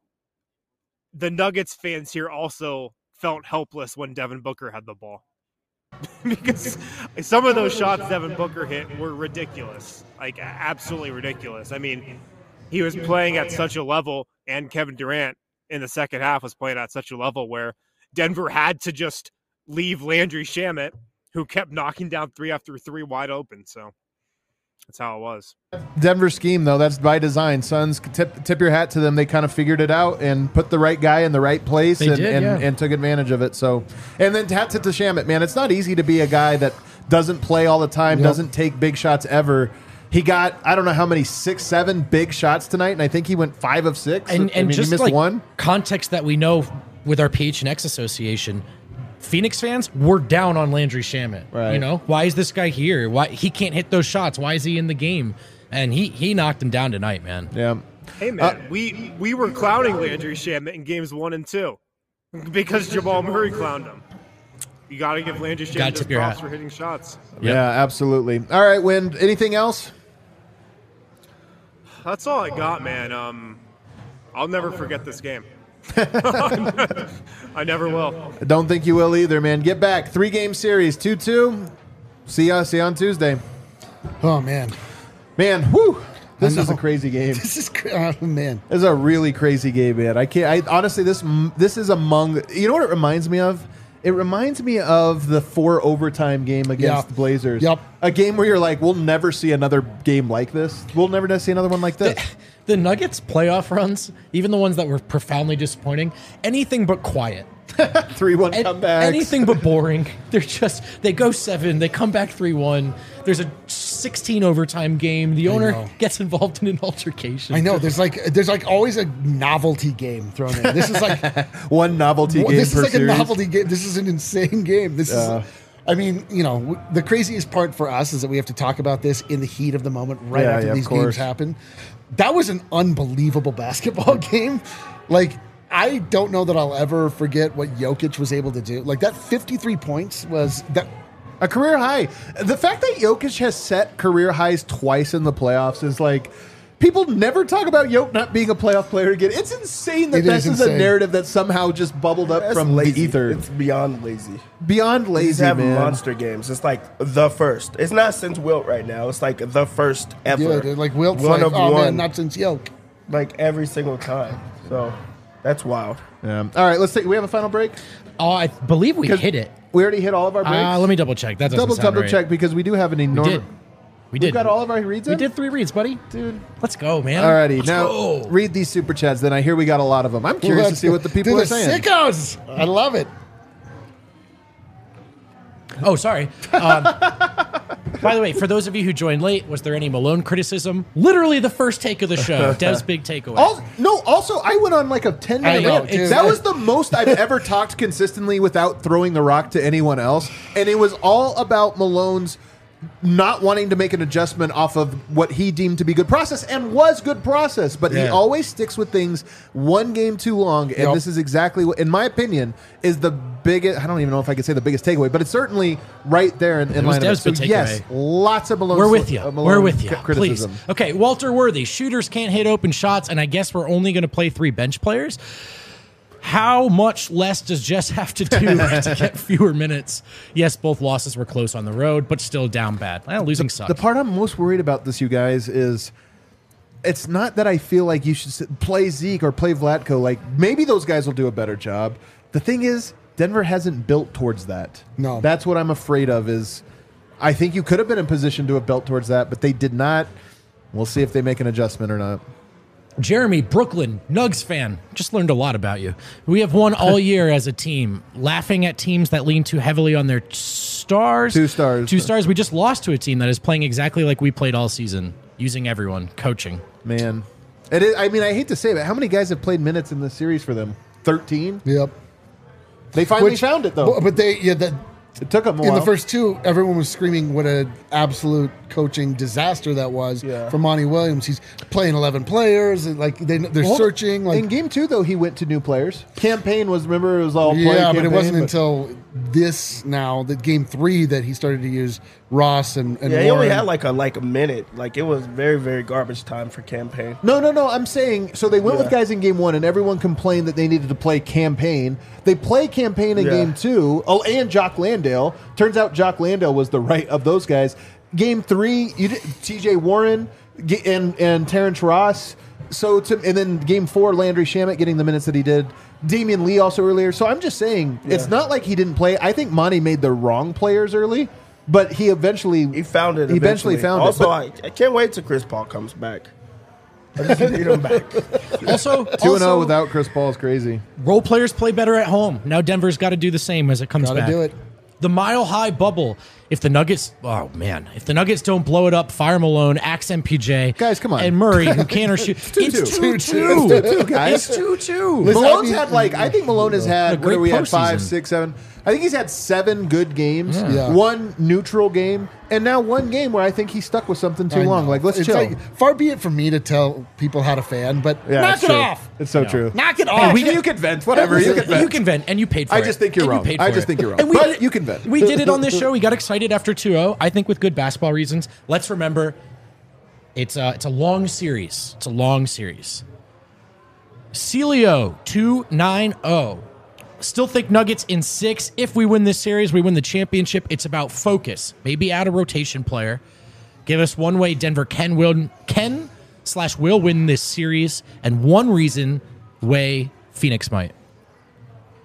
the Nuggets fans here also felt helpless when Devin Booker had the ball. Because some of those shots Devin Booker hit were ridiculous, like absolutely ridiculous. I mean, he was playing at such a level, and Kevin Durant in the second half was playing at such a level where Denver had to just leave Landry Shamet, who kept knocking down three after three wide open. So that's how it was. Denver scheme, though, that's by design. Suns, tip, tip your hat to them. They kind of figured it out and put the right guy in the right place They and, did, and, yeah. and took advantage of it. So, and then hat tip to Shamet, man. It's not easy to be a guy that doesn't play all the time, Yep. doesn't take big shots ever. He got, I don't know how many, six, seven big shots tonight, and I think he went five of six. And, I and mean, just he missed like one. context that we know with our P H N X association, Phoenix fans were down on Landry Shamet. Right. You know, why is this guy here? Why he can't hit those shots? Why is he in the game? And he he knocked him down tonight, man. Yeah. Hey man, we we were clowning Landry Shamet in games one and two because Jamal Murray clowned him. You got to give Landry Gotta Shamet tip his your props hat. for hitting shots. Yeah, absolutely. All right, Wind, anything else? That's all I got, man. Um, I'll never forget this game. I never will. I don't think you will either, man. Get back. Three-game series, two two. See ya. See you on Tuesday. Oh man, Man, whew. This I is a know. crazy game. this is cra- oh, man. This is a really crazy game, man. I can't. I honestly, this this is among. You know what it reminds me of? It reminds me of the four overtime game against Yeah. the Blazers. Yep. A game where you're like, we'll never see another game like this. We'll never see another one like this. The Nuggets playoff runs, even the ones that were profoundly disappointing, anything but quiet. three one An- comebacks. Anything but boring. They're just they go seven, they come back three one. There's a sixteen overtime game. The owner know. gets involved in an altercation. I know. There's like there's like always a novelty game thrown in. This is like One novelty well, game this per is like series. a novelty game. This is an insane game. This Yeah. is. I mean, you know, w- the craziest part for us is that we have to talk about this in the heat of the moment, right Yeah, after yeah, of these course. games happen. That was an unbelievable basketball game. Like, I don't know that I'll ever forget what Jokic was able to do. Like that fifty-three points was that. A career high. The fact that Jokic has set career highs twice in the playoffs is like, people never talk about Jokic not being a playoff player again. It's insane that It this is is a insane. narrative that somehow just bubbled up That's from lazy. the ether. It's beyond lazy. Beyond He's lazy, having man. monster games. It's like the first. It's not since Wilt right now. It's like the first ever. Yeah, dude, like Wilt's one like, of oh one, man, not since Yoke. like every single time. So that's wild. Yeah. All right, let's take. We have a final break. Oh, I believe we 'Cause hit it. We already hit all of our breaks. Uh, let me double check. That doesn't double sound double right. check because we do have an We enormous. did. We We've did. got all of our reads. We in? did three reads, buddy. dude. Let's go, man. Alrighty, Let's now go. read these super chats. Then I hear we got a lot of them. I'm curious to Let's see what the people Dude, are saying. Sickos. I love it. Oh, sorry. Um, by the way, for those of you who joined late, was there any Malone criticism? Literally the first take of the show. Dev's big takeaway. Also, no, also, I went on like a ten I minute know, rant. dude. That was the most I've ever talked consistently without throwing the rock to anyone else. And it was all about Malone's not wanting to make an adjustment off of what he deemed to be good process and was good process. But he Yeah. always sticks with things one game too long. And Yep. this is exactly what, in my opinion, is the biggest, I don't even know if I could say the biggest takeaway, but it's certainly right there in, in was line of it. Dev's So big yes, takeaway. lots of Malone. We're with you. uh, Malone We're with you. c- Please. criticism. Okay, Walter Worthy. Shooters can't hit open shots, and I guess we're only going to play three bench players. How much less does Jess have to do to get fewer minutes? Yes, both losses were close on the road, but still down bad. Well, losing sucks. The part I'm most worried about this, you guys, is it's not that I feel like you should sit- play Zeke or play Vlatko. Like, maybe those guys will do a better job. The thing is, Denver hasn't built towards that. No. That's what I'm afraid of is I think you could have been in position to have built towards that, but they did not. We'll see if they make an adjustment or not. Jeremy, Brooklyn, Nugs fan. Just learned a lot about you. We have won all year as a team, laughing at teams that lean too heavily on their stars. Two stars. Two stars. We just lost to a team that is playing exactly like we played all season, using everyone, coaching. Man. It is, I mean, I hate to say it, but how many guys have played minutes in this series for them? thirteen? Yep. They finally Which- found it, though. But, but they, yeah, that it took them a in while. the first two, everyone was screaming what an absolute coaching disaster that was Yeah. for Monty Williams. He's playing eleven players, and like they, they're Well, searching. Like in game two, though, he went to new players. Campaign was, remember, it was all play yeah, but campaign, it wasn't until this now that game three that he started to use Ross and, and Yeah, he only Warren. had like a like a minute. Like it was very very garbage time for campaign. No, no, no. I'm saying so they went with Yeah. guys in game one, and everyone complained that they needed to play campaign. They play campaign in Yeah. game two. Oh, and Jock Landale. Turns out Jock Landale was the right of those guys. Game three, you did, T J Warren ge- and and Terrence Ross. So to and then game four, Landry Shamet getting the minutes that he did. Damian Lee also earlier. So I'm just saying, it's Yeah. not like he didn't play. I think Monty made the wrong players early, but he eventually He found it. He eventually, found also, it. But I, I can't wait till Chris Paul comes back. I just need him back. Also, two and zero also, without Chris Paul is crazy. role players play better at home. Now Denver's got to do the same as it comes Gotta back. do it. The mile high bubble. If the Nuggets, oh man, if the Nuggets don't blow it up, fire Malone, axe M P J, Guys, come on. and Murray, who can't or shoot. It's two two. It's two two, guys. It's two two. Listen, Malone's I mean- had like I think Malone has A had what great are we at five, postseason. six, seven. I think he's had seven good games, Yeah. one neutral game, and now one game where I think he stuck with something too I long. know. Like let's It's chill. like, far be it from me to tell people how to fan, but Yeah, knock it's it true. off. It's so true. Knock it Hey, off. we, you can vent, whatever. You can vent. You can vent, and you paid for I it. just think you're And wrong. paid I for just it. think you're wrong. And we But did- you can vent. We did it on this show. We got excited after two oh. I think with good basketball reasons. Let's remember, it's a, it's a long series. It's a long series. Celio two nine oh. Still think Nuggets in six. If we win this series, we win the championship. It's about focus. Maybe add a rotation player. Give us one way Denver can win, can slash will win this series, and one reason way Phoenix might.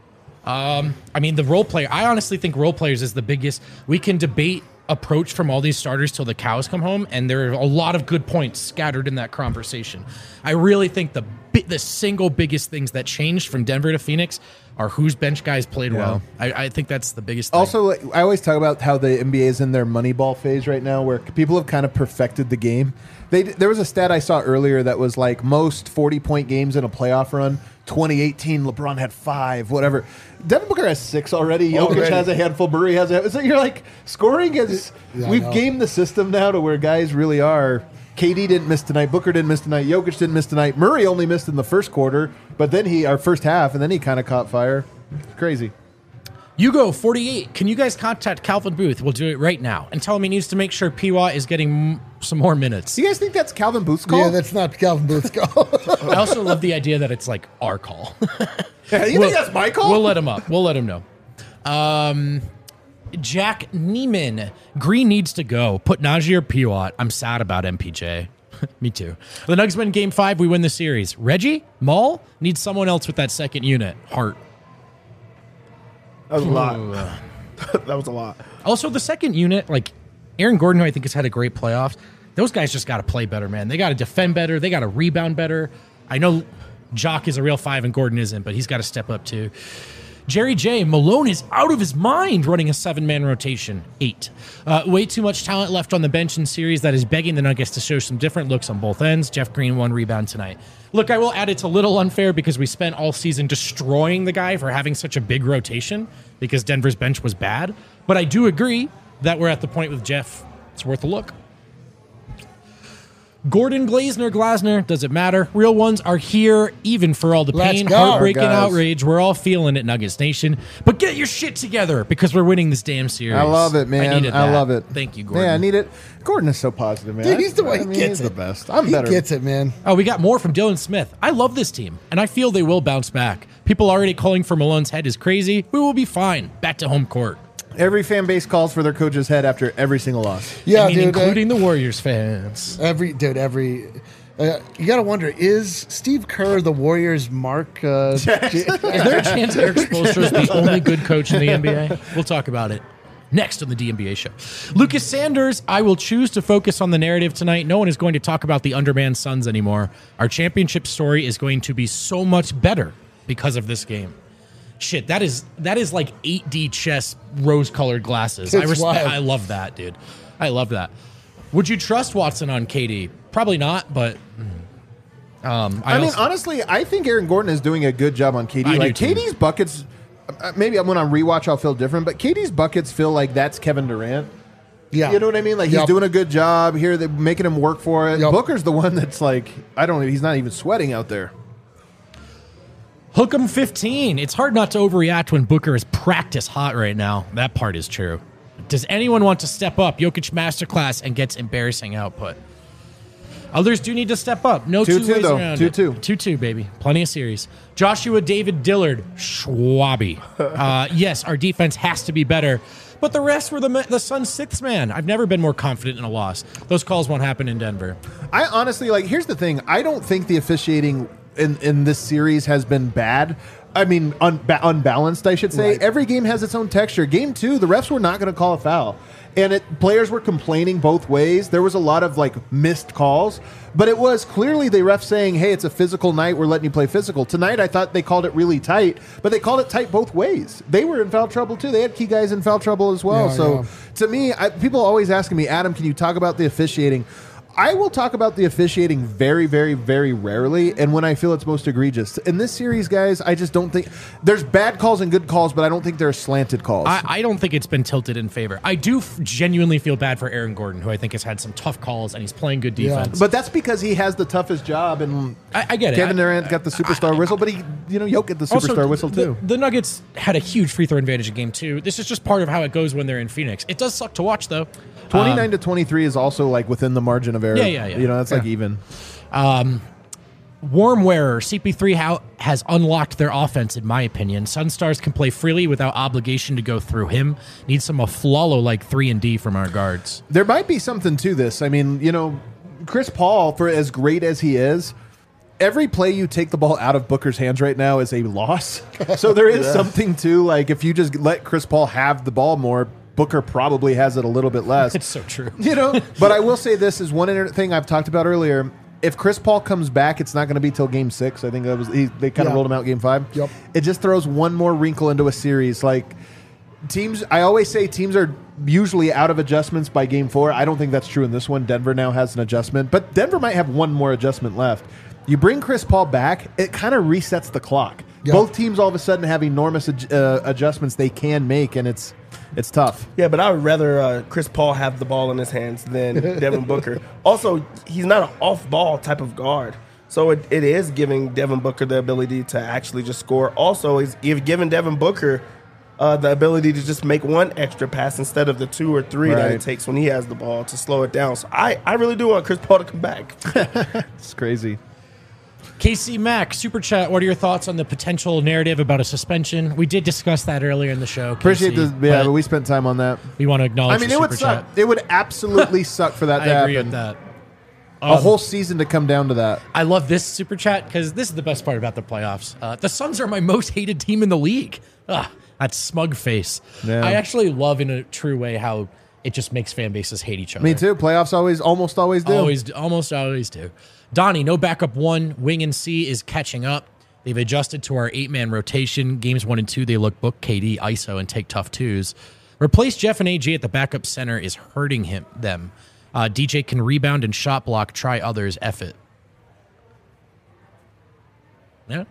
Um, I mean, the role player. I honestly think role players is the biggest. We can debate approach from all these starters till the cows come home, and there are a lot of good points scattered in that conversation. I really think the bi- the single biggest things that changed from Denver to Phoenix are whose bench guys played Yeah. well. I, I think that's the biggest thing. Also, like, I always talk about how the N B A is in their Moneyball phase right now, where people have kind of perfected the game. They there was a stat I saw earlier that was like most forty-point games in a playoff run. twenty eighteen, LeBron had five, whatever. Devin Booker has six already. Jokic Already. has a handful. Murray has a. So you're like scoring is. Yeah, I we've know. gamed the system now to where guys really are. K D didn't miss tonight. Booker didn't miss tonight. Jokic didn't miss tonight. Murray only missed in the first quarter, but then he our first half, and then he kind of caught fire. Crazy. Hugo forty-eight. Can you guys contact Calvin Booth? We'll do it right now and tell him he needs to make sure P W A is getting m- some more minutes. Do you guys think that's Calvin Booth's call? Yeah, that's not Calvin Booth's call. I also love the idea that it's like our call. Yeah, you We'll- think that's my call? We'll let him up. We'll let him know. Um, Jack Neiman. Green needs to go. Put Najee or P W A. I'm sad about M P J. Me too. The Nuggets win game five. We win the series. Reggie? Maul? Needs someone else with that second unit. Hart. That was a lot. That was a lot. Also, the second unit, like Aaron Gordon, who I think has had a great playoffs, those guys just got to play better, man. They got to defend better. They got to rebound better. I know Jock is a real five and Gordon isn't, but he's got to step up too. Jerry J. Malone is out of his mind running a seven-man rotation. Eight. Uh, way too much talent left on the bench in series that is begging the Nuggets to show some different looks on both ends. Jeff Green, one rebound tonight. Look, I will add it's a little unfair because we spent all season destroying the guy for having such a big rotation because Denver's bench was bad. But I do agree that we're at the point with Jeff. It's worth a look. Gordon Glazner, Glasner, does it matter? Real ones are here, even for all the Let's pain, go. heartbreak, and Guys. outrage. We're all feeling it, Nuggets Nation. But get your shit together because we're winning this damn series. I love it, man. I, needed that. love it. Thank you, Gordon. Yeah, I need it. Gordon is so positive, man. Dude, he's the way I he mean, gets he's it. the best. I'm he better. gets it, man. Oh, we got more from Dylan Smith. I love this team, and I feel they will bounce back. People already calling for Malone's head is crazy. We will be fine. Back to home court. Every fan base calls for their coach's head after every single loss. Yeah, I mean, dude. uh, including the Warriors fans. every dude, every. Uh, you got to wonder: is Steve Kerr the Warriors' Mark? Uh, Is there a chance Eric Spoelstra is the only good coach in the N B A? We'll talk about it next on the D N B A show. Lucas Sanders, I will choose to focus on the narrative tonight. No one is going to talk about the undermanned Suns anymore. Our championship story is going to be so much better because of this game. Shit, that is that is like eight D chess, rose-colored glasses. I It's respect. wild. I love that, dude. I love that. Would you trust Watson on K D? Probably not, but um, I, I, mean, also- honestly, I think Aaron Gordon is doing a good job on K D. I do Like too. K D's buckets, uh, maybe when I rewatch, I'll feel different. But K D's buckets feel like that's Kevin Durant. yeah, You know what I mean? Like he's Yep. doing a good job here. They're making him work for it. Yep. Booker's the one that's like, I don't. He's not even sweating out there. Hook 'em fifteen. It's hard not to overreact when Booker is practice hot right now. That part is true. Does anyone want to step up? Jokic masterclass and gets embarrassing output. Others do need to step up. No two, Two, two, ways though. around Two, it. two. Two two, baby. Plenty of series. Joshua David Dillard, Schwabi. Uh, yes, our defense has to be better, but the rest were the the Suns' sixth man. I've never been more confident in a loss. Those calls won't happen in Denver. I honestly like. Here's the thing. I don't think the officiating in in this series has been bad. I mean, un, ba- unbalanced. I should say. Right. Every game has its own texture. Game two, the refs were not going to call a foul, and it players were complaining both ways. There was a lot of like missed calls, but it was clearly the ref saying, "Hey, it's a physical night. We're letting you play physical." Tonight, I thought they called it really tight, but they called it tight both ways. They were in foul trouble too. They had key guys in foul trouble as well. Yeah, so yeah. to me, I, people always asking me, Adam, can you talk about the officiating? I will talk about the officiating very, very, very rarely, and when I feel it's most egregious. In this series, guys, I just don't think there's bad calls and good calls, but I don't think there are slanted calls. I, I don't think it's been tilted in favor. I do f- genuinely feel bad for Aaron Gordon, who I think has had some tough calls and he's playing good Yeah. defense. but that's because he has the toughest job, and I, I get it. Kevin I- Durant got the superstar whistle, but he, you know, Jokic get the Also, superstar whistle the, too. The Nuggets had a huge free throw advantage in game two. This is just part of how it goes when they're in Phoenix. It does suck to watch, though. Twenty-nine to twenty-three is also like within the margin of error. Yeah, yeah, yeah. You know, that's like Yeah. even. Warm wearer, C P three how, has unlocked their offense, in my opinion. Sunstars can play freely without obligation to go through him. Need some Aflalo like three and D from our guards. There might be something to this. I mean, you know, Chris Paul, for as great as he is, every play you take the ball out of Booker's hands right now is a loss. So there is Yeah. something to, like, if you just let Chris Paul have the ball more, Booker probably has it a little bit less. It's so true. You know, but I will say this is one inter- thing I've talked about earlier. If Chris Paul comes back, it's not going to be till game six. I think that was he, they kind of Yeah. rolled him out game five. Yep. It just throws one more wrinkle into a series. Like teams, I always say teams are usually out of adjustments by game four. I don't think that's true in this one. Denver now has an adjustment, but Denver might have one more adjustment left. You bring Chris Paul back, it kind of resets the clock. Yep. Both teams all of a sudden have enormous ad- uh, adjustments they can make, and it's it's tough. Yeah, but I would rather uh, Chris Paul have the ball in his hands than Devin Booker. Also, he's not an off-ball type of guard. So it, it is giving Devin Booker the ability to actually just score. Also, he's if giving Devin Booker uh, the ability to just make one extra pass instead of the two or three that Right. it takes when he has the ball to slow it down. So I, I really do want Chris Paul to come back. It's crazy. K C Mack, Super Chat, what are your thoughts on the potential narrative about a suspension? We did discuss that earlier in the show. Appreciate K C, this. Yeah, but but we spent time on that. we want to acknowledge I mean, the it would Super suck. Chat. It would absolutely suck for that I to agree happen. with that. A whole season to come down to that. I love this Super Chat because this is the best part about the playoffs. Uh, the Suns are my most hated team in the league. Ugh, that smug face. Yeah. I actually love in a true way how it just makes fan bases hate each other. Me too. Playoffs always, almost always do. Always, almost always do. Donnie, no backup one. Wing and C is catching up. They've adjusted to our eight-man rotation. Games one and two, they look book K D, I S O, and take tough twos. Replace Jeff and A G at the backup center is hurting him them. Uh, D J can rebound and shot block. Try others. F it. Yeah.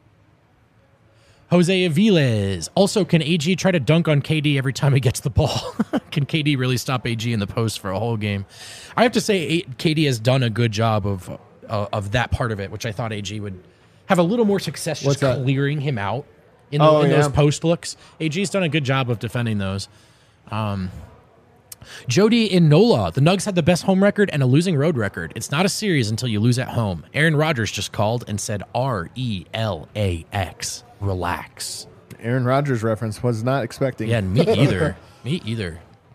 Jose Aviles. Also, can A G try to dunk on K D every time he gets the ball? Can K D really stop A G in the post for a whole game? I have to say, K D has done a good job of uh, of that part of it, which I thought A G would have a little more success just What's that? clearing him out in, the, Oh, in those yeah. post looks. A G's done a good job of defending those. Um, Jody in Nola. The Nugs had the best home record and a losing road record. It's not a series until you lose at home. Aaron Rodgers just called and said R E L A X. Relax. Aaron Rodgers reference was not expecting. Yeah, me either. me either.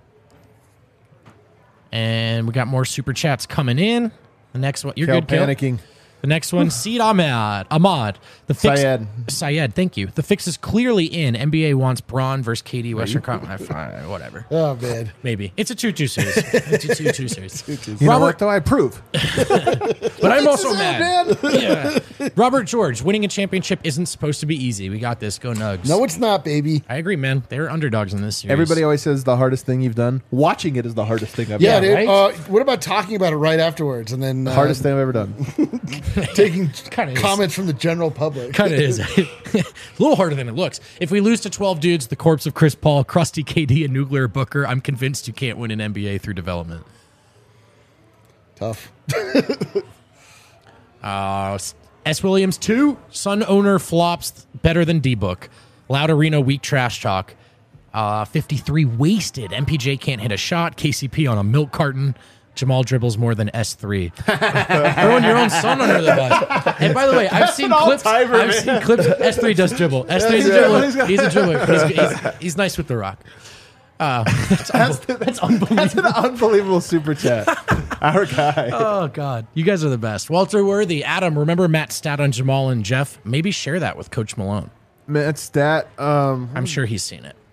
And we got more super chats coming in. The next one, you're Cal good, Cal? panicking. The next one, Seed Ahmad. Ahmad. The fix, Syed. Syed, thank you. The fix is clearly in. N B A wants Braun versus K D. Western Conference. Fine, whatever. Oh, man. Maybe. It's a two two series. It's a two two series. You know Robert, what, though? I approve. but I'm also This is it, mad. man. Yeah. Robert George, winning a championship isn't supposed to be easy. We got this. Go Nugs. No, it's not, baby. I agree, man. They're underdogs in this series. Everybody always says the hardest thing you've done. Watching it is the hardest thing I've Yeah, done. dude. right? Uh, what about talking about it right afterwards and then uh, Hardest thing I've ever done. taking Kinda is. comments from the general public? Kind of is. a little harder than it looks. If we lose to twelve dudes, the corpse of Chris Paul, Krusty K D, and Nuclear Booker, I'm convinced you can't win an N B A through development. Tough. Uh, S. Williams, two. Sun owner flops better than D-Book. Loud Arena, weak trash talk. Uh, fifty-three wasted. M P J can't hit a shot. K C P on a milk carton. Jamal dribbles more than S three. Throwing your own son under the bus. And by the way, I've seen clips. I've all-timer, seen clips. S three does dribble. S three's a Yeah, dribbler. he's got- He's a dribbler. He's, he's, he's nice with the rock. Uh, that's, unbe- that's unbelievable. That's an unbelievable super chat. Our guy. Oh, God. You guys are the best. Walter Worthy, Adam, remember Matt's stat on Jamal and Jeff? Maybe share that with Coach Malone. Matt Stat. Um, I'm sure he's seen it.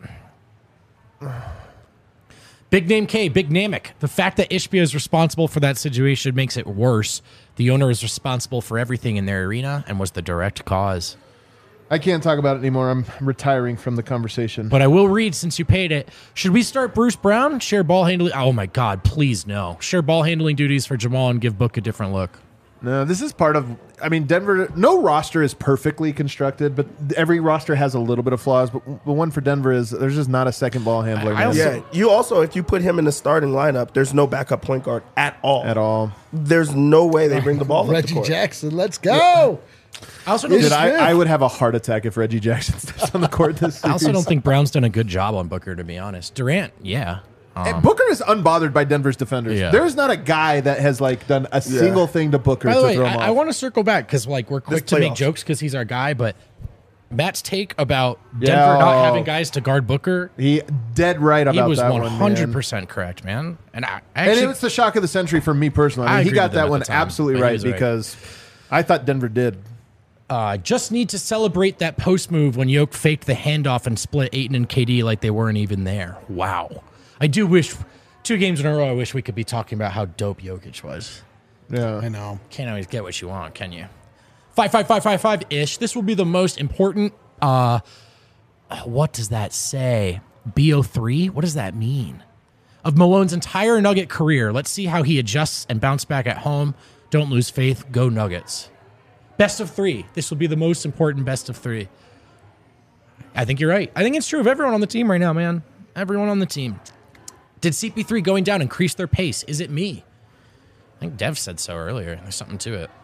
Big Name K, Big Namek. The fact that Ishbia is responsible for that situation makes it worse. The owner is responsible for everything in their arena and was the direct cause. I can't talk about it anymore. I'm retiring from the conversation. But I will read since you paid it. Should we start Bruce Brown? Share ball handling. Oh, my God. Please, no. Share ball handling duties for Jamal and give Book a different look. No, this is part of. I mean, Denver. No roster is perfectly constructed, but every roster has a little bit of flaws. But the one for Denver is there's just not a second ball handler I man, also- Yeah, you also, if you put him in the starting lineup, there's no backup point guard at all. at all. There's no way they bring the ball up the Reggie court. Jackson, let's go. I also don't, Dude, Smith. I, I would have a heart attack if Reggie Jackson steps on the court this series. I also don't think Brown's done a good job on Booker, to be honest. Durant, yeah. And Booker is unbothered by Denver's defenders. Yeah. There's not a guy that has like done a single thing to Booker By to the way, throw him I, off. I want to circle back because like we're quick This to make playoffs. jokes because he's our guy, but Matt's take about Yeah. Denver not having guys to guard Booker, he dead right about he was that one one, man. hundred percent correct, man. And I And actually, it was the shock of the century for me personally. I I mean, he agreed got with him that at one the time, absolutely but he right was right. because I thought Denver did. Uh, just need to celebrate that post move when Yoke faked the handoff and split Ayton and K D like they weren't even there. Wow. I do wish, two games in a row, I wish we could be talking about how dope Jokic was. Yeah, I know. Can't always get what you want, can you? Five, five, five, five, five ish. This will be the most important. Uh, what does that say? B O three? What does that mean? Of Malone's entire Nugget career. Let's see how he adjusts and bounce back at home. Don't lose faith. Go Nuggets. Best of three. This will be the most important best of three. I think you're right. I think it's true of everyone on the team right now, man. Everyone on the team. Did C P three going down increase their pace? Is it me? I think Dev said so earlier. There's something to it.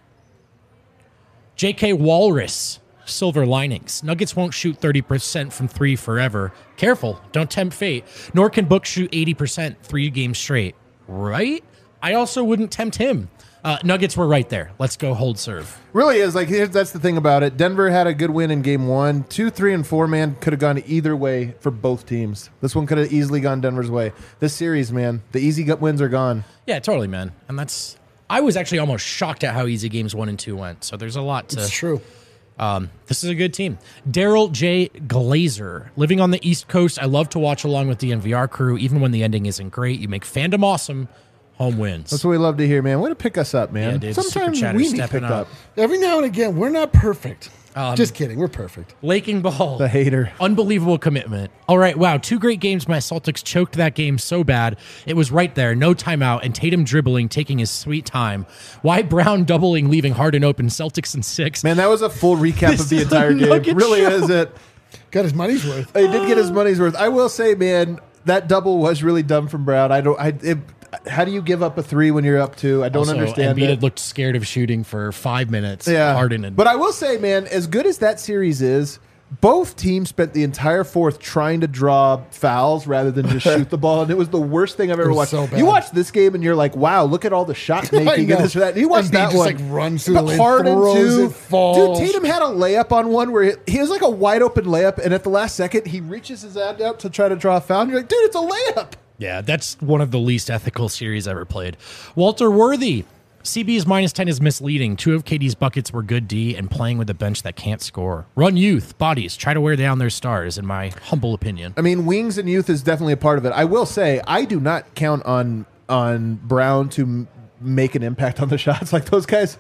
J K Walrus. Silver linings. Nuggets won't shoot thirty percent from three forever. Careful. Don't tempt fate. Nor can Book shoot eighty percent three games straight. Right? I also wouldn't tempt him. Uh, Nuggets were right there. Let's go hold serve. Really is. Like, here's, that's the thing about it. Denver had a good win in game one. Two, three, and four, man, could have gone either way for both teams. This one could have easily gone Denver's way. This series, man, the easy gut wins are gone. Yeah, totally, man. And that's... I was actually almost shocked at how easy games one and two went. So there's a lot to... It's true. Um, this is a good team. Daryl J. Glazer. Living on the East Coast, I love to watch along with the N V R crew. Even when the ending isn't great, you make fandom awesome. Home wins. That's what we love to hear, man. Way to pick us up, man. Yeah, dude, Sometimes Super Chatter's we need stepping picked up. up. Every now and again, we're not perfect. Um, Just kidding. We're perfect. Laking Ball. The hater. Unbelievable commitment. All right, wow. Two great games. My Celtics choked that game so bad. It was right there. No timeout. And Tatum dribbling, taking his sweet time. Why Brown doubling, leaving Harden open. Celtics in six. Man, that was a full recap This of the is entire a game. Nugget Really show. is it. Got his money's worth. He did get his money's worth. I will say, man, that double was really dumb from Brown. I don't. I. It, how do you give up a three when you're up two? I don't Also, understand Embiid it. had looked scared of shooting for five minutes. Yeah, Harden and but I will say, man, as good as that series is, both teams spent the entire fourth trying to draw fouls rather than just shoot the ball, and it was the worst thing I've ever was watched. so bad. You watch this game and you're like, wow, look at all the shot making and know. this or that. And you watch Embiid that just, one, like, runs through but the lane, Harden throws too. it, falls. Dude, Tatum had a layup on one where he, he was like a wide open layup, and at the last second he reaches his hand out to try to draw a foul. And you're like, dude, it's a layup. Yeah, that's one of the least ethical series ever played. Walter Worthy. C B's minus ten is misleading. Two of K D's buckets were good D and playing with a bench that can't score. Run youth, bodies, try to wear down their stars, in my humble opinion. I mean, wings and youth is definitely a part of it. I will say, I do not count on on Brown to m- make an impact on the shots. Like those guys,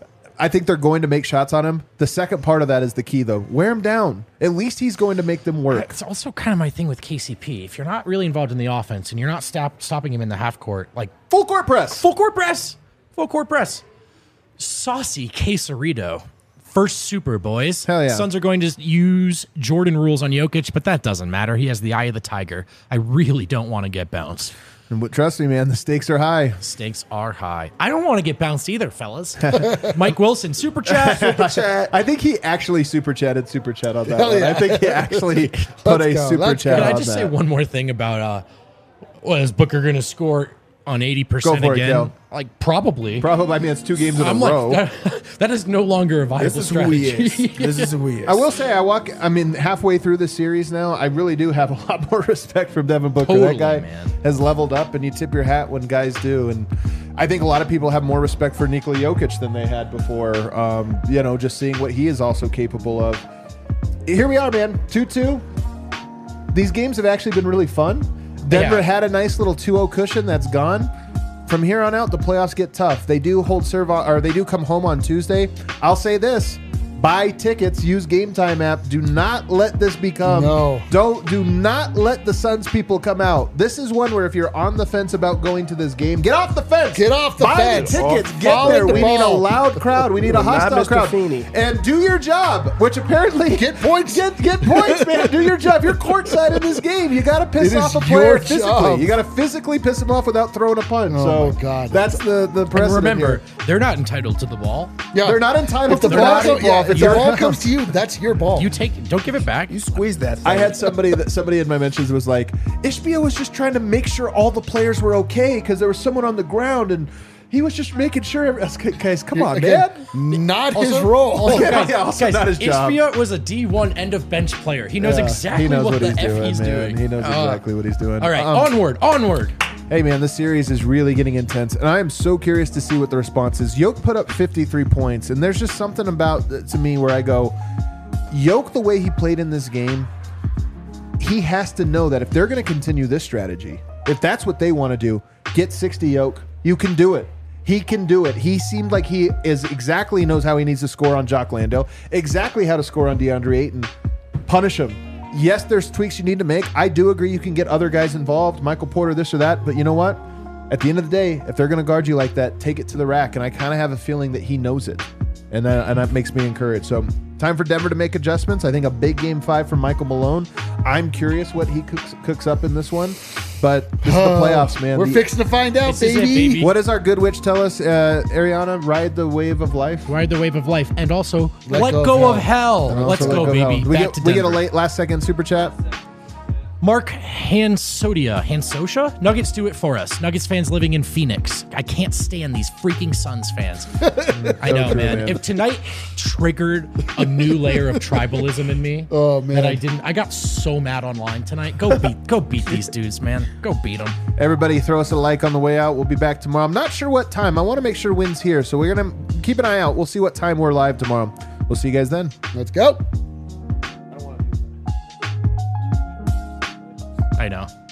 I think they're going to make shots on him. The second part of that is the key, though. Wear him down. At least he's going to make them work. It's also kind of my thing with K C P. If you're not really involved in the offense and you're not stop, stopping him in the half court, like Full court press. full court press, full court press. Saucy Quesarito. First super, boys. Hell yeah. Suns are going to use Jordan rules on Jokic, but that doesn't matter. He has the eye of the tiger. I really don't want to get bounced. And w- trust me, man, the stakes are high. Stakes are high. I don't want to get bounced either, fellas. Mike Wilson, super chat. Super chat. I think he actually super chatted super chat on that Hell one. yeah. I think he actually put a go. super Let's chat go. Can on I just that. say one more thing about uh, what is Booker going to score on eighty percent Go for it, again? Kel. Like probably. Probably, I mean, it's two games in I'm a like row. that, that is no longer a viable This is who strategy. he is. This is who he is. I will say, I walk. I mean, halfway through the series now, I really do have a lot more respect for Devin Booker. Totally, that guy man. has leveled up, and you tip your hat when guys do. And I think a lot of people have more respect for Nikola Jokic than they had before. Um, you know, just seeing what he is also capable of. Here we are, man. two two. These games have actually been really fun. Denver Yeah. had a nice little two oh cushion that's gone. From here on out, the playoffs get tough. They do hold serve, on, or they do come home on Tuesday. I'll say this: buy tickets, use Game Time app. Do not let this become. No. Don't. Do not let the Suns people come out. This is one where if you're on the fence about going to this game, get off the fence. Get off the buy fence. the tickets. Oh, Get follow there. the We need a ball. loud crowd. We need a Not hostile Mister crowd. Feeney. And do your job, which apparently Get points. Get get points, man. Do your job. You're courtside in this game. You got to piss It is off a player your physically. job. You got to physically piss him off without throwing a punch. Oh, so my God. that's the the And precedent remember, here. they're not entitled to the ball. Yeah. They're not entitled If the to ball, not go- involved. yeah, if It's the your ball house. comes to you, that's your ball. You take it. Don't give it back. You squeeze that thing. I had somebody that somebody in my mentions was like, Ishbia was just trying to make sure all the players were okay because there was someone on the ground and he was just making sure. every- Guys, come on, Again, man. not his Also- role. also, Yeah, guys, yeah, also guys, not his job. Ishbia was a D one end of bench player. He knows Yeah, exactly he knows what, what the he's F doing, he's man. doing. He knows Uh, exactly what he's doing. All right, Um, onward, onward. Hey, man, this series is really getting intense, and I am so curious to see what the response is. Yoke put up fifty-three points, and there's just something about to me where I go, Yoke, the way he played in this game, he has to know that if they're going to continue this strategy, if that's what they want to do, get sixty, Yoke. You can do it. He can do it. He seemed like he is exactly knows how he needs to score on Jock Landale, exactly how to score on DeAndre Ayton. Punish him. Yes, there's tweaks you need to make. I do agree you can get other guys involved, Michael Porter, this or that, but you know what? At the end of the day, if they're going to guard you like that, take it to the rack, and I kind of have a feeling that he knows it, and that, and that makes me encouraged. So time for Denver to make adjustments. I think a big game five from Michael Malone. I'm curious what he cooks, cooks up in this one, but this is the playoffs, man. We're The- fixing to find out, This is it, baby. baby. What does our good witch tell us, uh, Ariana? Ride the wave of life. Ride the wave of life, and also Let let, go of go, hell. of hell. And Let's also go, let of baby. hell. We, Back get, to we get a Denver. late last second super chat. Mark Hansodia, Hansosha? Nuggets do it for us. Nuggets fans living in Phoenix. I can't stand these freaking Suns fans. I know, true, man. man. If tonight triggered a new layer of tribalism in me, Oh, man. that I didn't. I got so mad online tonight. Go beat, go beat these dudes, man. Go beat them. Everybody throw us a like on the way out. We'll be back tomorrow. I'm not sure what time. I want to make sure Wynn's here, so we're going to keep an eye out. We'll see what time we're live tomorrow. We'll see you guys then. Let's go. I know.